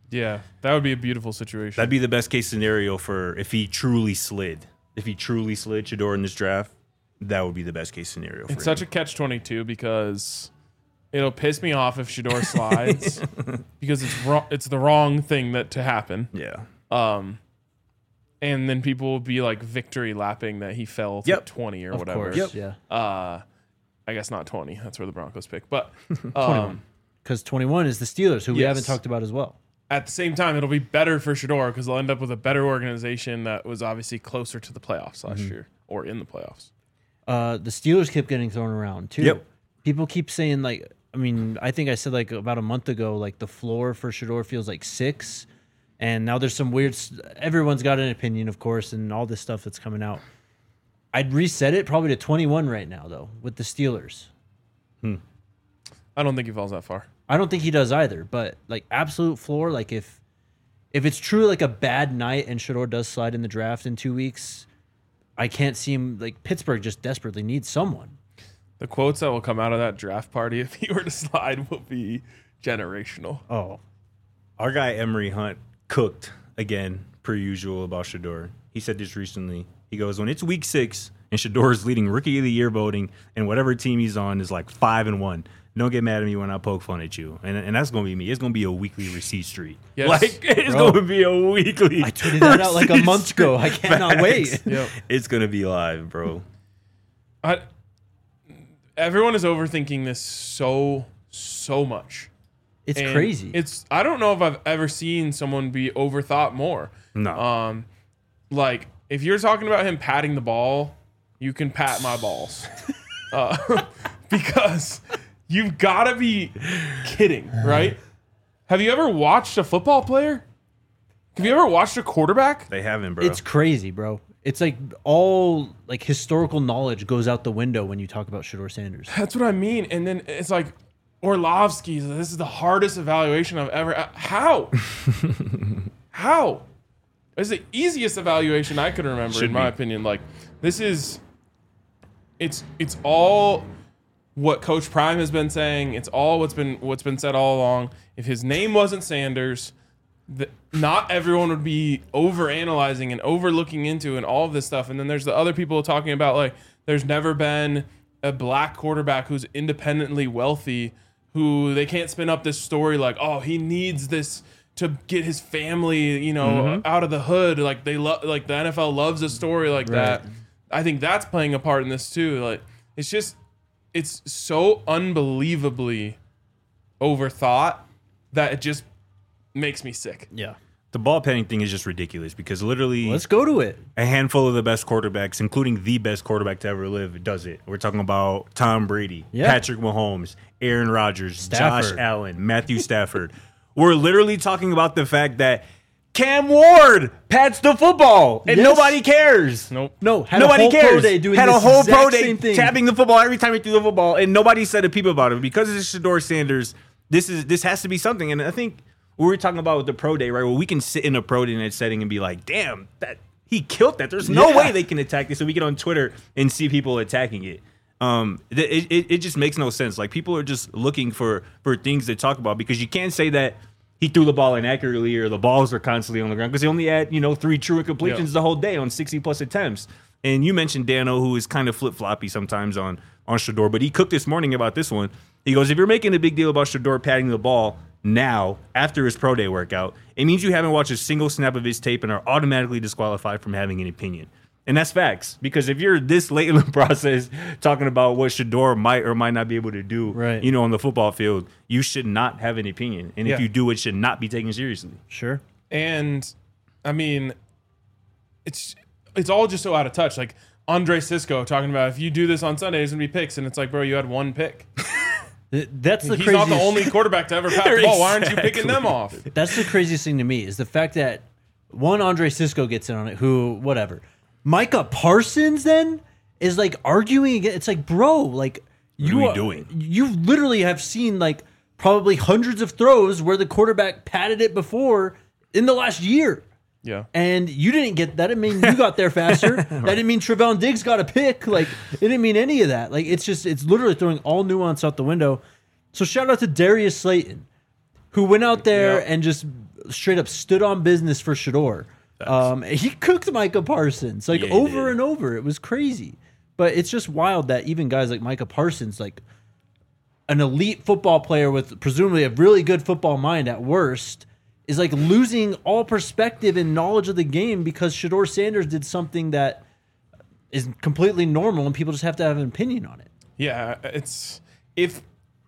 Yeah, that would be a beautiful situation. That'd be the best case scenario for if he truly slid. If he truly slid Shedeur in this draft, that would be the best case scenario for It's him. such a catch-22 because it'll piss me off if Shedeur slides because it's the wrong thing to happen. Yeah. And then people will be like victory lapping that he fell to 20 or Of whatever. course, yeah. I guess not 20. That's where the Broncos pick. But 21. Because 21 is the Steelers, who we Yes. haven't talked about as well. at the same time, it'll be better for Shedeur because they'll end up with a better organization that was obviously closer to the playoffs last year or in the playoffs. The Steelers kept getting thrown around too. Yep. People keep saying like, I mean, I think I said like about a month ago, like the floor for Shedeur feels like 6, and now there's some weird. Everyone's got an opinion, of course, and all this stuff that's coming out. I'd reset it probably to 21 right now though with the Steelers. I don't think he falls that far. I don't think he does either, but like absolute floor, like if it's truly like a bad night and Shedeur does slide in the draft in 2 weeks, I can't see him. Like Pittsburgh just desperately needs someone. The quotes that will come out of that draft party if he were to slide will be generational. Oh, Our guy Emery Hunt cooked again, per usual, about Shedeur. He said this recently. He goes, when it's week 6 and Shedeur is leading Rookie of the Year voting, and whatever team he's on is like 5-1. Don't get mad at me when I poke fun at you. And that's going to be me. It's going to be a weekly receipt streak. Yes. Like, it's Bro. going to be a weekly I tweeted that out like a receipt month ago. I streak. cannot wait. Facts. Yep. It's going to be live, bro. Everyone is overthinking this so much. It's And crazy. I don't know if I've ever seen someone be overthought more. No. Like if you're talking about him patting the ball, you can pat my balls, because you've got to be kidding, right? Have you ever watched a football player? Have you ever watched a quarterback? They haven't, bro. It's crazy, bro. It's like all like historical knowledge goes out the window when you talk about Shedeur Sanders. That's what I mean. And then it's like Orlovsky's. This is the hardest evaluation I've ever. How? How? It's the easiest evaluation I could remember, Should in my be. opinion. Like this is. It's all what Coach Prime has been saying. It's all what's been said all along. If his name wasn't Sanders, not everyone would be overanalyzing and overlooking into and all of this stuff. And then there's the other people talking about like there's never been a black quarterback who's independently wealthy who they can't spin up this story like, oh, he needs this to get his family, you know, out of the hood. Like they love, like the NFL loves a story like that. I think that's playing a part in this too. Like it's so unbelievably overthought that it just makes me sick. Yeah. the ball petting thing is just ridiculous because literally Let's go to it. a handful of the best quarterbacks, including the best quarterback to ever live, does it. We're talking about Tom Brady, Yeah. Patrick Mahomes, Aaron Rodgers, Stafford. Josh Allen, Matthew Stafford. We're literally talking about the fact that Cam Ward pats the football and Yes. nobody cares. Nope. No, had Nobody a whole cares. pro day doing Had this a whole exact pro same day thing. tapping the football every time he threw the football, and nobody said a peep about it because it's Shedeur Sanders. This has to be something, and I think we were talking about with the pro day, right? Well, we can sit in a pro day setting and be like, "Damn, that he killed that." There's no Yeah. way they can attack this, so we get on Twitter and see people attacking it. It just makes no sense. Like people are just looking for things to talk about because you can't say that he threw the ball inaccurately or the balls are constantly on the ground because he only had 3 true incompletions the whole day on 60 plus attempts. And you mentioned Dano, who is kind of flip floppy sometimes on Shedeur, but he cooked this morning about this one. He goes, if you're making a big deal about Shedeur patting the ball now after his pro day workout, it means you haven't watched a single snap of his tape and are automatically disqualified from having an opinion. And that's facts, because if you're this late in the process talking about what Shedeur might or might not be able to do, Right. on the football field, you should not have an opinion. And Yeah. if you do, it should not be taken seriously. Sure. And I mean, it's all just so out of touch. Like Andre Sisco talking about if you do this on Sunday, it's gonna be picks, and it's like, bro, you had 1 pick. That's the He's craziest. not the only quarterback to ever pat the ball. Why aren't you picking them off? That's the craziest thing to me is the fact that Andre Sisco gets in on it. Who, whatever. Micah Parsons then is like arguing again. It's like, bro, like are we doing? You literally have seen like probably hundreds of throws where the quarterback patted it before in the last year. Yeah. And you didn't get that. Didn't mean you got there faster. That didn't mean Trevon Diggs got a pick. Like it didn't mean any of that. Like it's literally throwing all nuance out the window. So shout out to Darius Slayton, who went out there Yeah. and just straight up stood on business for Shedeur. He cooked Micah Parsons like over and over. It was crazy. But it's just wild that even guys like Micah Parsons, like an elite football player with presumably a really good football mind at worst, is like losing all perspective and knowledge of the game because Shedeur Sanders did something that is completely normal and people just have to have an opinion on it. Yeah, it's if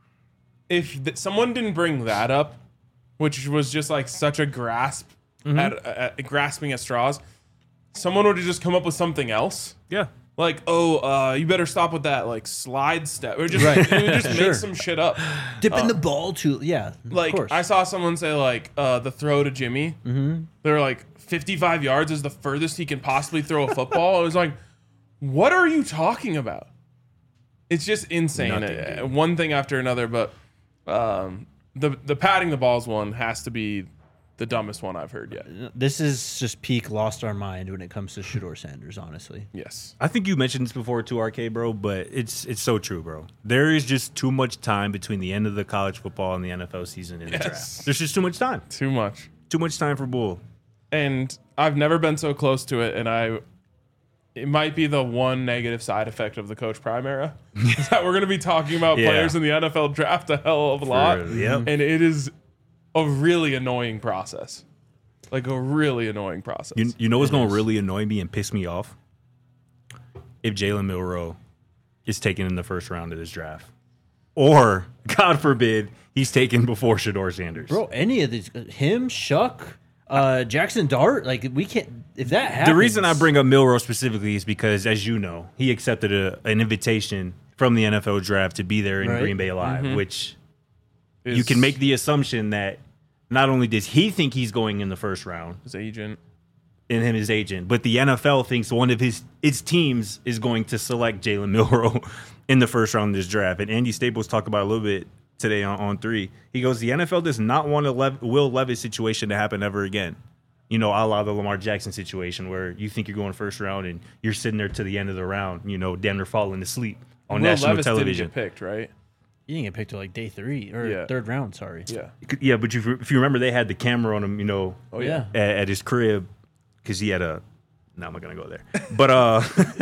someone didn't bring that up, which was just like such a grasp at grasping at straws, someone would have just come up with something else. Yeah. Like, you better stop with that, like, slide step. Or just, make some shit up. Dipping the ball to, like, of course. I saw someone say, like, the throw to Jimmy. Mm-hmm. They're like, 55 yards is the furthest he can possibly throw a football. I was like, what are you talking about? It's just insane. One thing after another, but the patting the balls one has to be the dumbest one I've heard yet. This is just peak lost our mind when it comes to Shedeur Sanders, honestly. Yes. I think you mentioned this before too, RK, bro, but it's so true, bro. There is just too much time between the end of the college football and the NFL season and the draft. There's just too much time. Too much. Too much time for bull. And I've never been so close to it, and it might be the one negative side effect of the Coach Prime era is that we're going to be talking about players in the NFL draft a hell of a lot. And it is a really annoying process. Like a really annoying process. You know what's going to really annoy me and piss me off? If Jalen Milroe is taken in the first round of this draft. Or, God forbid, he's taken before Shedeur Sanders. Bro, any of these, him, Shuck, Jackson Dart, like we can't, if that happens. The reason I bring up Milroe specifically is because, as you know, he accepted an invitation from the NFL draft to be there in Green Bay Live, which you can make the assumption that not only does he think he's going in the first round, his agent, but the NFL thinks one of its teams is going to select Jalen Milroe in the first round of this draft. And Andy Staples talked about it a little bit today on 3. He goes, the NFL does not want a Will Levis situation to happen ever again. You know, a la the Lamar Jackson situation where you think you're going first round and you're sitting there to the end of the round, you know, damn near falling asleep on national Levis television. Didn't get picked, right? You didn't get picked till like day 3 or third round, sorry. Yeah, but if you remember, they had the camera on him, you know, at his crib because he had a. No, I'm not gonna go there. But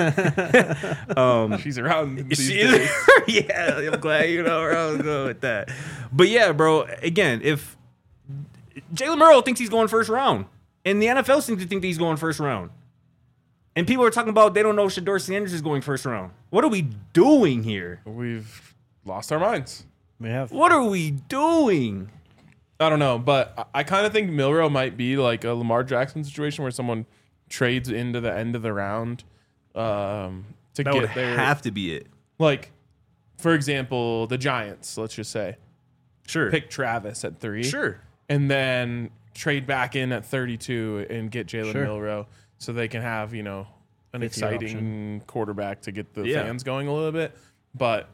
she's around these days. Yeah, I'm glad you know where I was going with that. But yeah, bro. Again, if Jalen Milroe thinks he's going first round, and the NFL seems to think that he's going first round, and people are talking about they don't know Shedeur Sanders is going first round. What are we doing here? We've lost our minds. We have. What are we doing? I don't know, but I kind of think Milroe might be like a Lamar Jackson situation where someone trades into the end of the round to that get would there. Have to be it. Like, for example, the Giants, let's just say. Sure. Pick Travis at 3. Sure. And then trade back in at 32 and get Jalen Milroe so they can have, you know, an exciting quarterback to get the fans going a little bit. But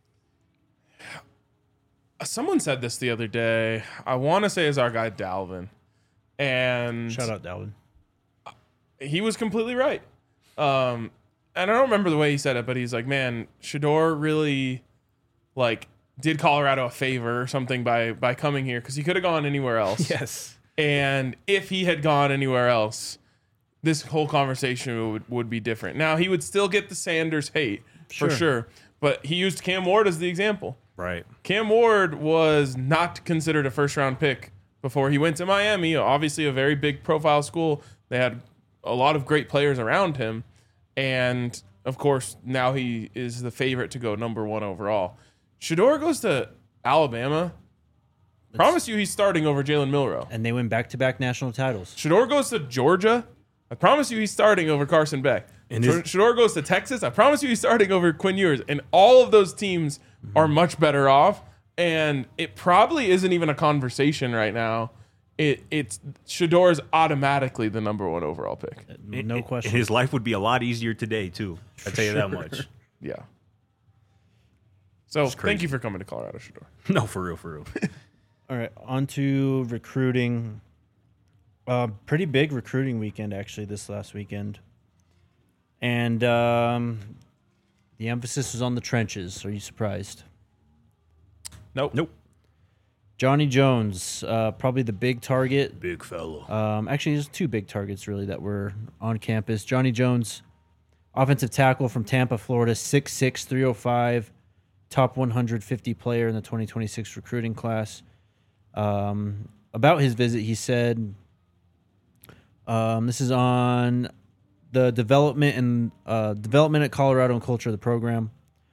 someone said this the other day. I want to say is our guy Dalvin. And shout out Dalvin. He was completely right. And I don't remember the way he said it, but he's like, man, Shedeur really like did Colorado a favor or something by coming here because he could have gone anywhere else. Yes. And if he had gone anywhere else, this whole conversation would be different. Now, he would still get the Sanders hate for sure, but he used Cam Ward as the example. Right. Cam Ward was not considered a first-round pick before he went to Miami, obviously a very big profile school. They had a lot of great players around him. And, of course, now he is the favorite to go number 1 overall. Shedeur goes to Alabama. Promise you he's starting over Jalen Milroe. And they win back-to-back national titles. Shedeur goes to Georgia. I promise you he's starting over Carson Beck. And Shedeur goes to Texas. I promise you he's starting over Quinn Ewers. And all of those teams are much better off. And it probably isn't even a conversation right now. It's Shedeur's automatically the number 1 overall pick. No question. His life would be a lot easier today, too. I'll tell you that much. Yeah. So thank you for coming to Colorado, Shedeur. No, for real. All right, on to recruiting. Pretty big recruiting weekend, actually, this last weekend. And the The emphasis was on the trenches. Are you surprised? Nope. Johnny Jones, probably the big target. Big fellow. Actually, there's two big targets really that were on campus. Johnny Jones, offensive tackle from Tampa, Florida, 6'6", 305, top 150 player in the 2026 recruiting class. About his visit, he said, this is on the development at Colorado and culture of the program.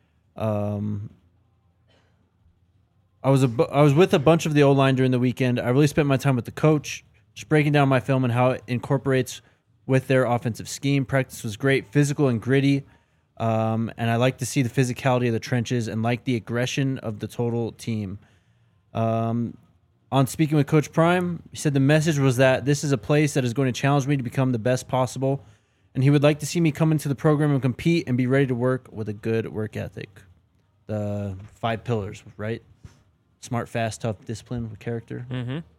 I was with a bunch of the O-line during the weekend. I really spent my time with the coach, just breaking down my film and how it incorporates with their offensive scheme. Practice was great, physical and gritty, and I like to see the physicality of the trenches and like the aggression of the total team. On speaking with Coach Prime, he said the message was that this is a place that is going to challenge me to become the best possible, and he would like to see me come into the program and compete and be ready to work with a good work ethic. The 5 pillars, right? Smart, fast, tough, discipline with character.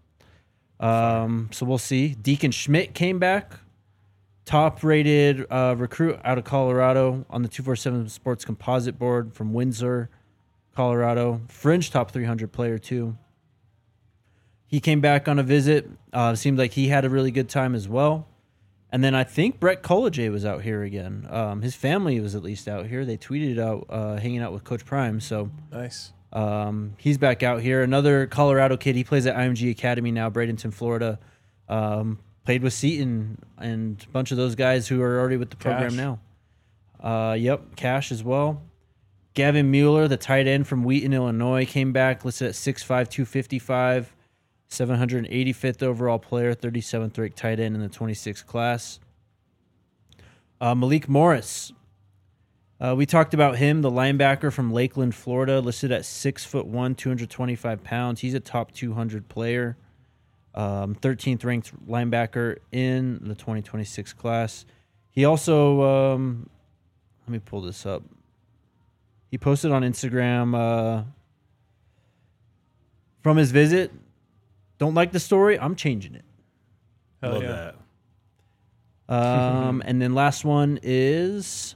So we'll see. Deacon Schmidt came back. Top-rated recruit out of Colorado on the 247 Sports Composite Board from Windsor, Colorado. Fringe top 300 player, too. He came back on a visit. Seemed like he had a really good time as well. And then I think Brett Collegier was out here again. His family was at least out here. They tweeted out hanging out with Coach Prime. So Nice. He's back out here. Another Colorado kid. He plays at IMG Academy now, Bradenton, Florida. Played with Seton and a bunch of those guys who are already with the program Cash. now. Yep, Cash as well. Gavin Mueller, the tight end from Wheaton, Illinois, came back, listed at 6'5", 255, 785th overall player, 37th ranked tight end in the 26th class. Malik Morris. We talked about him, the linebacker from Lakeland, Florida, listed at 6'1", 225 pounds. He's a top 200 player. 13th ranked linebacker in the 2026 class. He also, let me pull this up. He posted on Instagram from his visit. Don't like the story? I'm changing it. Hell Love yeah. that. And then last one is...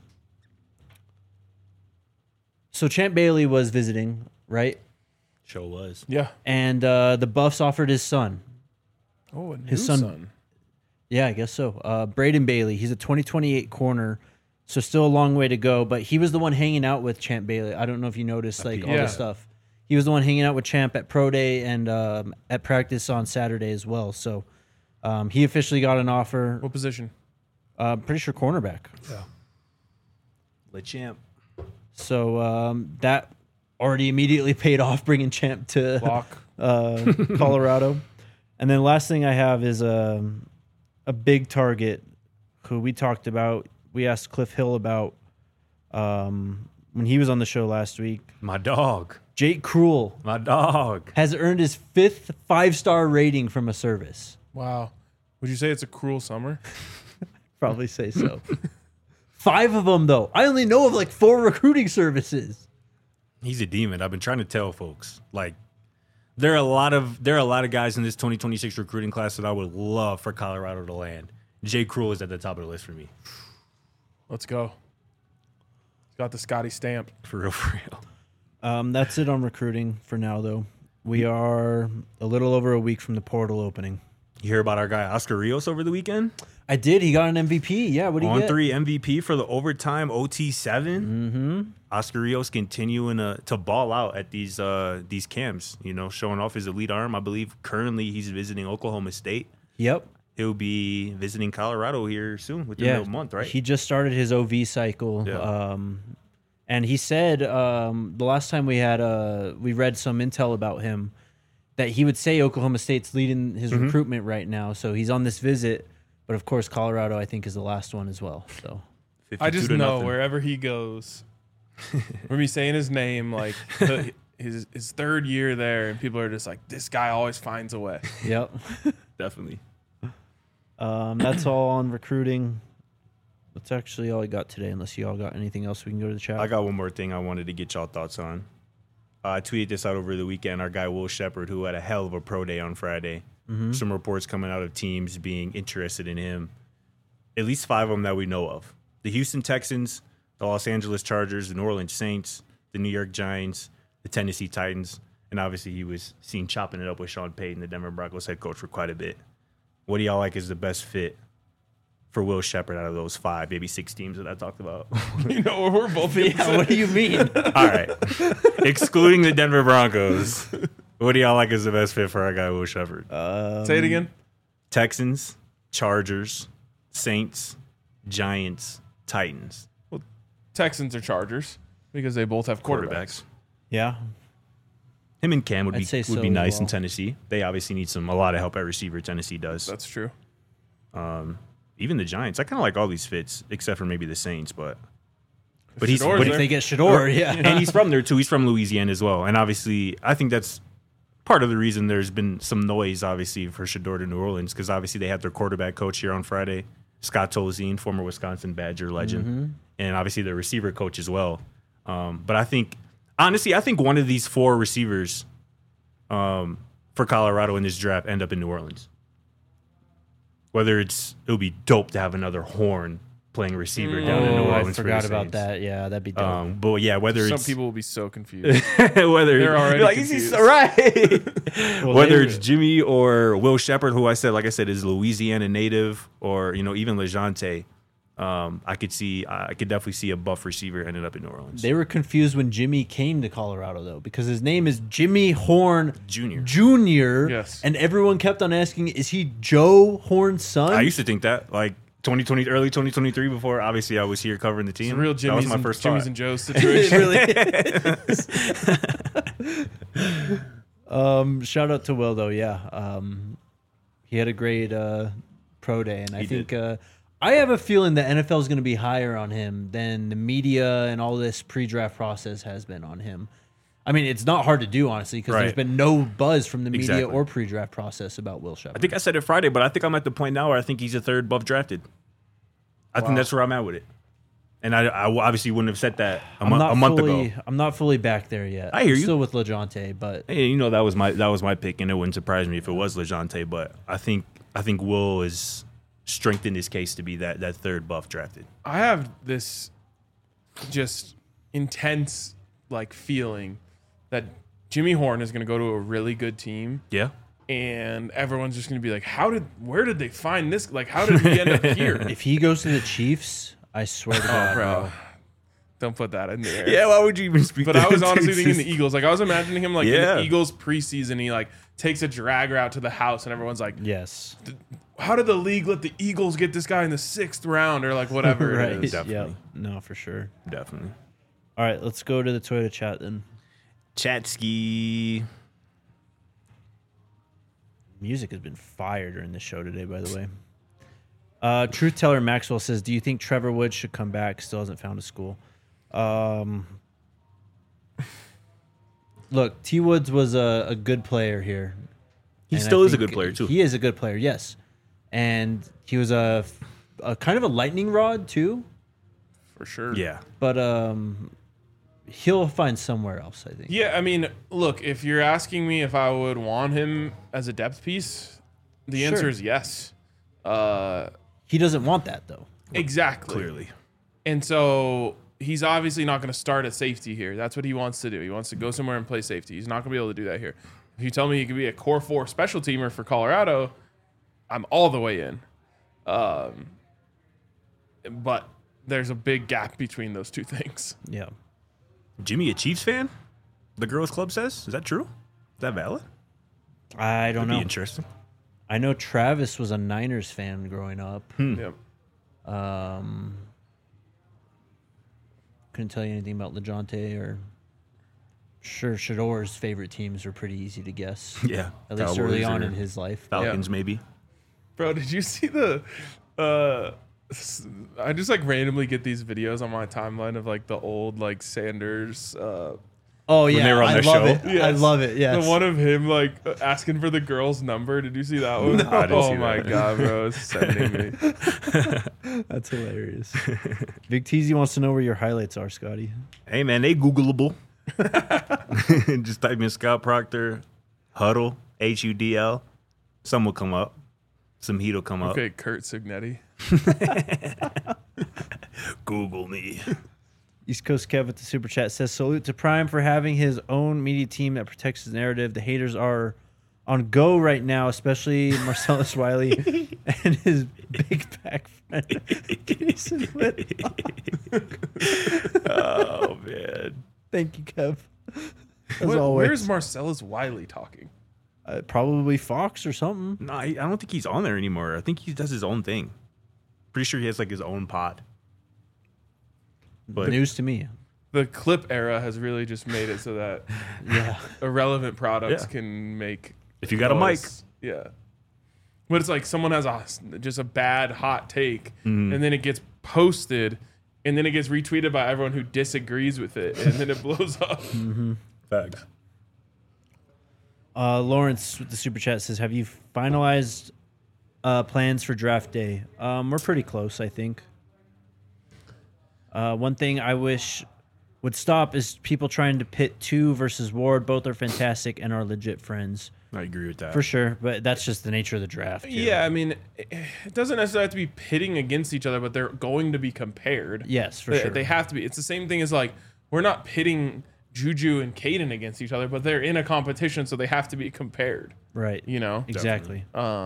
So Champ Bailey was visiting, right? Show was. Yeah. And the Buffs offered his son. Oh, a new His son- Yeah, I guess so. Braden Bailey. He's a 2028 corner, so still a long way to go. But he was the one hanging out with Champ Bailey. I don't know if you noticed, like, all Yeah. this stuff. He was the one hanging out with Champ at Pro Day and at practice on Saturday as well. So he officially got an offer. What position? Pretty sure cornerback. Le Champ. So that already immediately paid off, bringing Champ to Lock. Colorado. And then last thing I have is a big target who we talked about. We asked Cliff Hill about when he was on the show last week. My dog. Jake Krull My dog. has earned his 5th 5-star rating from a service. Wow. Would you say it's a cruel summer? Probably say so. 5 of them, though. I only know of like 4 recruiting services. He's a demon. I've been trying to tell folks. Like, there are a lot of guys in this 2026 recruiting class that I would love for Colorado to land. Jay Krull is at the top of the list for me. Let's go. He's got the Scotty stamp. For real, for real. That's it on recruiting for now, though. We are a little over a week from the portal opening. You hear about our guy Oscar Rios over the weekend? I did. He got an MVP. Yeah, what did he get? 3 MVP for the overtime OT7. Mm-hmm. Oscar Rios continuing to ball out at these camps, you know, showing off his elite arm. I believe currently he's visiting Oklahoma State. Yep. He'll be visiting Colorado here soon, within a month, right? He just started his OV cycle. Yeah. And he said the last time we read some intel about him that he would say Oklahoma State's leading his recruitment right now. So he's on this visit. But, of course, Colorado, I think, is the last one as well. So I just 52 to know nothing. wherever he goes, when we saying his name, like his 3rd year there, and people are just like, this guy always finds a way. Yep. Definitely. That's all on recruiting. That's actually all I got today, unless you all got anything else we can go to the chat. I got one more thing I wanted to get y'all thoughts on. I tweeted this out over the weekend. Our guy Will Shepard, who had a hell of a pro day on Friday. Some reports coming out of teams being interested in him. At least 5 of them that we know of. The Houston Texans, the Los Angeles Chargers, the New Orleans Saints, the New York Giants, the Tennessee Titans, and obviously he was seen chopping it up with Sean Payton, the Denver Broncos head coach, for quite a bit. What do y'all like is the best fit for Will Shepherd out of those 5, maybe 6 teams that I talked about? You know, we're both. Yeah, what do you mean? All right. Excluding the Denver Broncos, what do y'all like is the best fit for our guy, Will Shepherd? Say it again. Texans, Chargers, Saints, Giants, Titans. Texans or Chargers because they both have quarterbacks. Yeah. Him and Cam would I'd be say so would be as nice in well. Tennessee. They obviously need a lot of help at receiver. Tennessee does. That's true. Even the Giants. I kind of like all these fits except for maybe the Saints, but Shador's but If there. they get Shador, yeah. and he's from there too. He's from Louisiana as well. And obviously, I think that's part of the reason there's been some noise, obviously, for Shador to New Orleans, because obviously they had their quarterback coach here on Friday, Scott Tolzien, former Wisconsin Badger legend, and obviously their receiver coach as well. But I think, honestly, I think one of these 4 receivers for Colorado in this draft end up in New Orleans. Whether it would be dope to have another Horn playing receiver down in New Oh, I Orleans. forgot for the about Saints. that. Yeah, that'd be dope. But yeah, whether Some it's people will be so confused. whether They're already you're like, confused. right. Well, Whether they- it's Jimmy or Will Shepherd, who like I said, is Louisiana native, or even LeJounte, I could definitely see a buff receiver ended up in New Orleans. They were confused when Jimmy came to Colorado, though, because his name is Jimmy Horn Junior. Jr. Yes. And everyone kept on asking, is he Joe Horn's son? I used to think that, like 2020, early 2023, before obviously I was here covering the team. It's a real that was Jimmy's, my and, first Jimmy's thought. and Joe's situation. Shout out to Will, though. Yeah. He had a great pro day. And I think I have a feeling the NFL is going to be higher on him than the media and all this pre-draft process has been on him. I mean, it's not hard to do, honestly, because there's Right. been no buzz from the media Exactly. or pre-draft process about Will Shepherd. I think I said it Friday, but I think I'm at the point now where I think he's a 3rd buff drafted. I think that's where I'm at with it. And I obviously wouldn't have said that a month ago. I'm not fully back there yet. I hear I'm you. Still with LeJounte, but Hey, that was my pick, and it wouldn't surprise me if it was LeJounte. But I think Will is strengthened his case to be that 3rd buff drafted. I have this just intense feeling that Jimmy Horn is going to go to a really good team, Yeah, and everyone's just going to be like, where did they find this? Like, how did he end up here? if he goes to the Chiefs, I swear to God, Bro, don't put that in the air. yeah. Why would you even speak? But I was honestly thinking the Eagles. Like, I was imagining him in Yeah. the Eagles preseason. He takes a drag route to the house, and everyone's like, yes, how did the league let the Eagles get this guy in the 6th round or whatever right, it is? Definitely. yeah, no, for sure. Definitely. All right, let's go to the Toyota chat then. Chatsky. Music has been fire during the show today, by the way. Truth Teller Maxwell says, "Do you think Trevor Woods should come back? Still hasn't found a school." Look, T. Woods was a good player here. He And still I is a think good player too. He is a good player, yes. And he was a kind of a lightning rod too, For sure. Yeah. but he'll find somewhere else, I think. Yeah, I mean, look, if you're asking me if I would want him as a depth piece, the answer Sure. is yes. He doesn't want that though. Exactly. Clearly. And so he's obviously not going to start at safety here. That's what he wants to do. He wants to go somewhere and play safety. He's not going to be able to do that here. If you tell me he could be a core 4 special teamer for Colorado, I'm all the way in. But there's a big gap between those two things. Yeah. Jimmy, a Chiefs fan? The girls' club says. Is that true? Is that valid? I don't Be know. interesting. I know Travis was a Niners fan growing up. Yep. Couldn't tell you anything about LeJounte or sure Shador's favorite teams are pretty easy to guess. Yeah. At least Cowboys early on or in his life. Falcons, maybe. Bro, did you see the I just randomly get these videos on my timeline of the old Sanders Oh yeah, they were on I their love show? it. I Yes. love it. Yes. the one of him asking for the girl's number. Did you see that one? I didn't oh see my that. god, bro, it's sending me. That's hilarious. Big Teasy wants to know where your highlights are, Scotty. Hey, man, they Googleable. Just type in Scott Proctor, Huddle, HUDL. Some will come up. Some heat will come up. Okay, Kurt Signetti. Google me. East Coast Kev with the super chat says, salute to Prime for having his own media team that protects his narrative. The haters are on go right now, especially Marcellus Wiley and his big back friend. Oh, man. Thank you, Kev. As always. Where's Marcellus Wiley talking? Probably Fox or something. No, I don't think he's on there anymore. I think he does his own thing. Pretty sure he has like his own pod. But News to me. The clip era has really just made it so that Yeah. irrelevant products Yeah. can make. if you got a mic, noise. Yeah. But it's like someone has just a bad hot take, Mm-hmm. and then it gets posted, and then it gets retweeted by everyone who disagrees with it, and then it blows up. facts. Lawrence with the super chat says, have you finalized plans for draft day? We're pretty close, I think. One thing I wish would stop is people trying to pit two versus Ward. Both are fantastic and are legit friends. I agree with that. For sure, but that's just the nature of the draft. Yeah, I mean, it doesn't necessarily have to be pitting against each other, but they're going to be compared. Yes, for They- sure. They have to be. It's the same thing as like, we're not pitting Juju and Caden against each other, but they're in a competition, so they have to be compared. Right. You know? Exactly.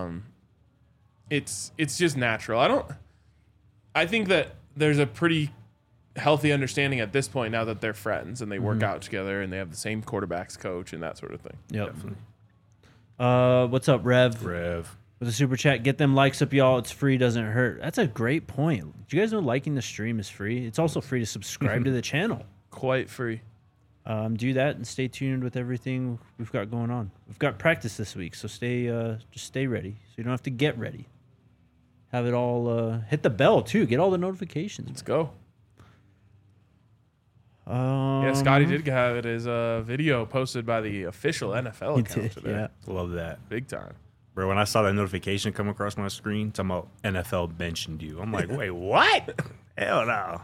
It's just natural. I think that there's a pretty healthy understanding at this point now that they're friends and they work out together and they have the same quarterbacks coach and that sort of thing. Yep. What's up, Rev? Rev. With a super chat, get them likes up, y'all. It's free, doesn't hurt. That's a great point. Do you guys know liking the stream is free? It's also free to subscribe to the channel. Quite free. Do that and stay tuned with everything we've got going on. We've got practice this week, so just stay ready. So you don't have to get ready. Have it all hit the bell too. Get all the notifications. Let's go. Yeah, Scotty did have it as a video posted by the official NFL account today. Yeah. Love that. Big time. Bro, when I saw that notification come across my screen, talking about NFL mentioned you, I'm like, wait, what? Hell no.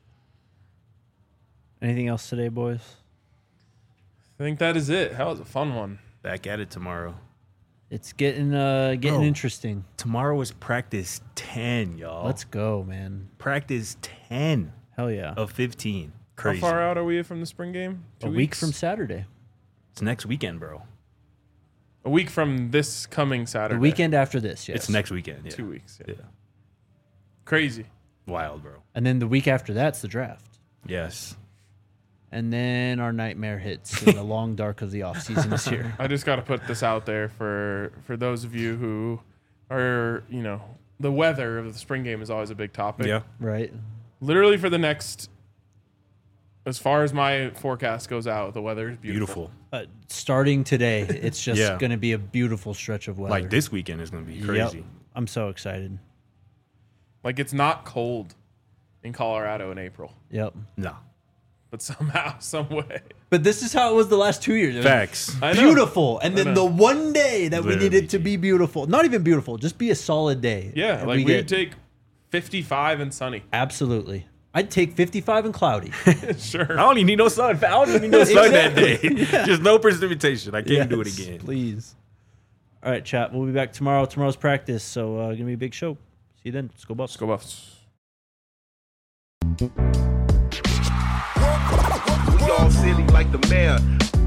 Anything else today, boys? I think that is it. That was a fun one. Back at it tomorrow. It's getting interesting. Tomorrow is practice 10, y'all. Let's go, man. Practice 10 Hell yeah. of 15. Crazy. How far out are we from the spring game? A week from Saturday. It's next weekend, bro. A week from this coming Saturday. The weekend after this, yes. It's next weekend. Yeah. 2 weeks. Yeah. Crazy. Wild, bro. And then the week after that's the draft. Yes. And then our nightmare hits and the long dark of the offseason is here. I just got to put this out there for those of you who are, the weather of the spring game is always a big topic. Yeah. Right? Literally for the next, as far as my forecast goes out, the weather is beautiful. Starting today, it's just Yeah. going to be a beautiful stretch of weather. Like this weekend is going to be crazy. Yep. I'm so excited. Like it's not cold in Colorado in April, Yep. No. but somehow, some way. But this is how it was the last 2 years. It was Facts. I know. beautiful. And then know. the one day that we Literally. needed to be beautiful. Not even beautiful, just be a solid day. Yeah, And like we get- would take 55 and sunny. Absolutely. I'd take 55 and cloudy. Sure. I don't even need no sun. I don't even need no sun that day. Exactly. Yeah. Just no precipitation. I can't do it Yes, again. Please. All right, chat. We'll be back tomorrow. Tomorrow's practice, so going to be a big show. See you then. Let's go Buffs. Let's go Buffs. We all silly like the mayor.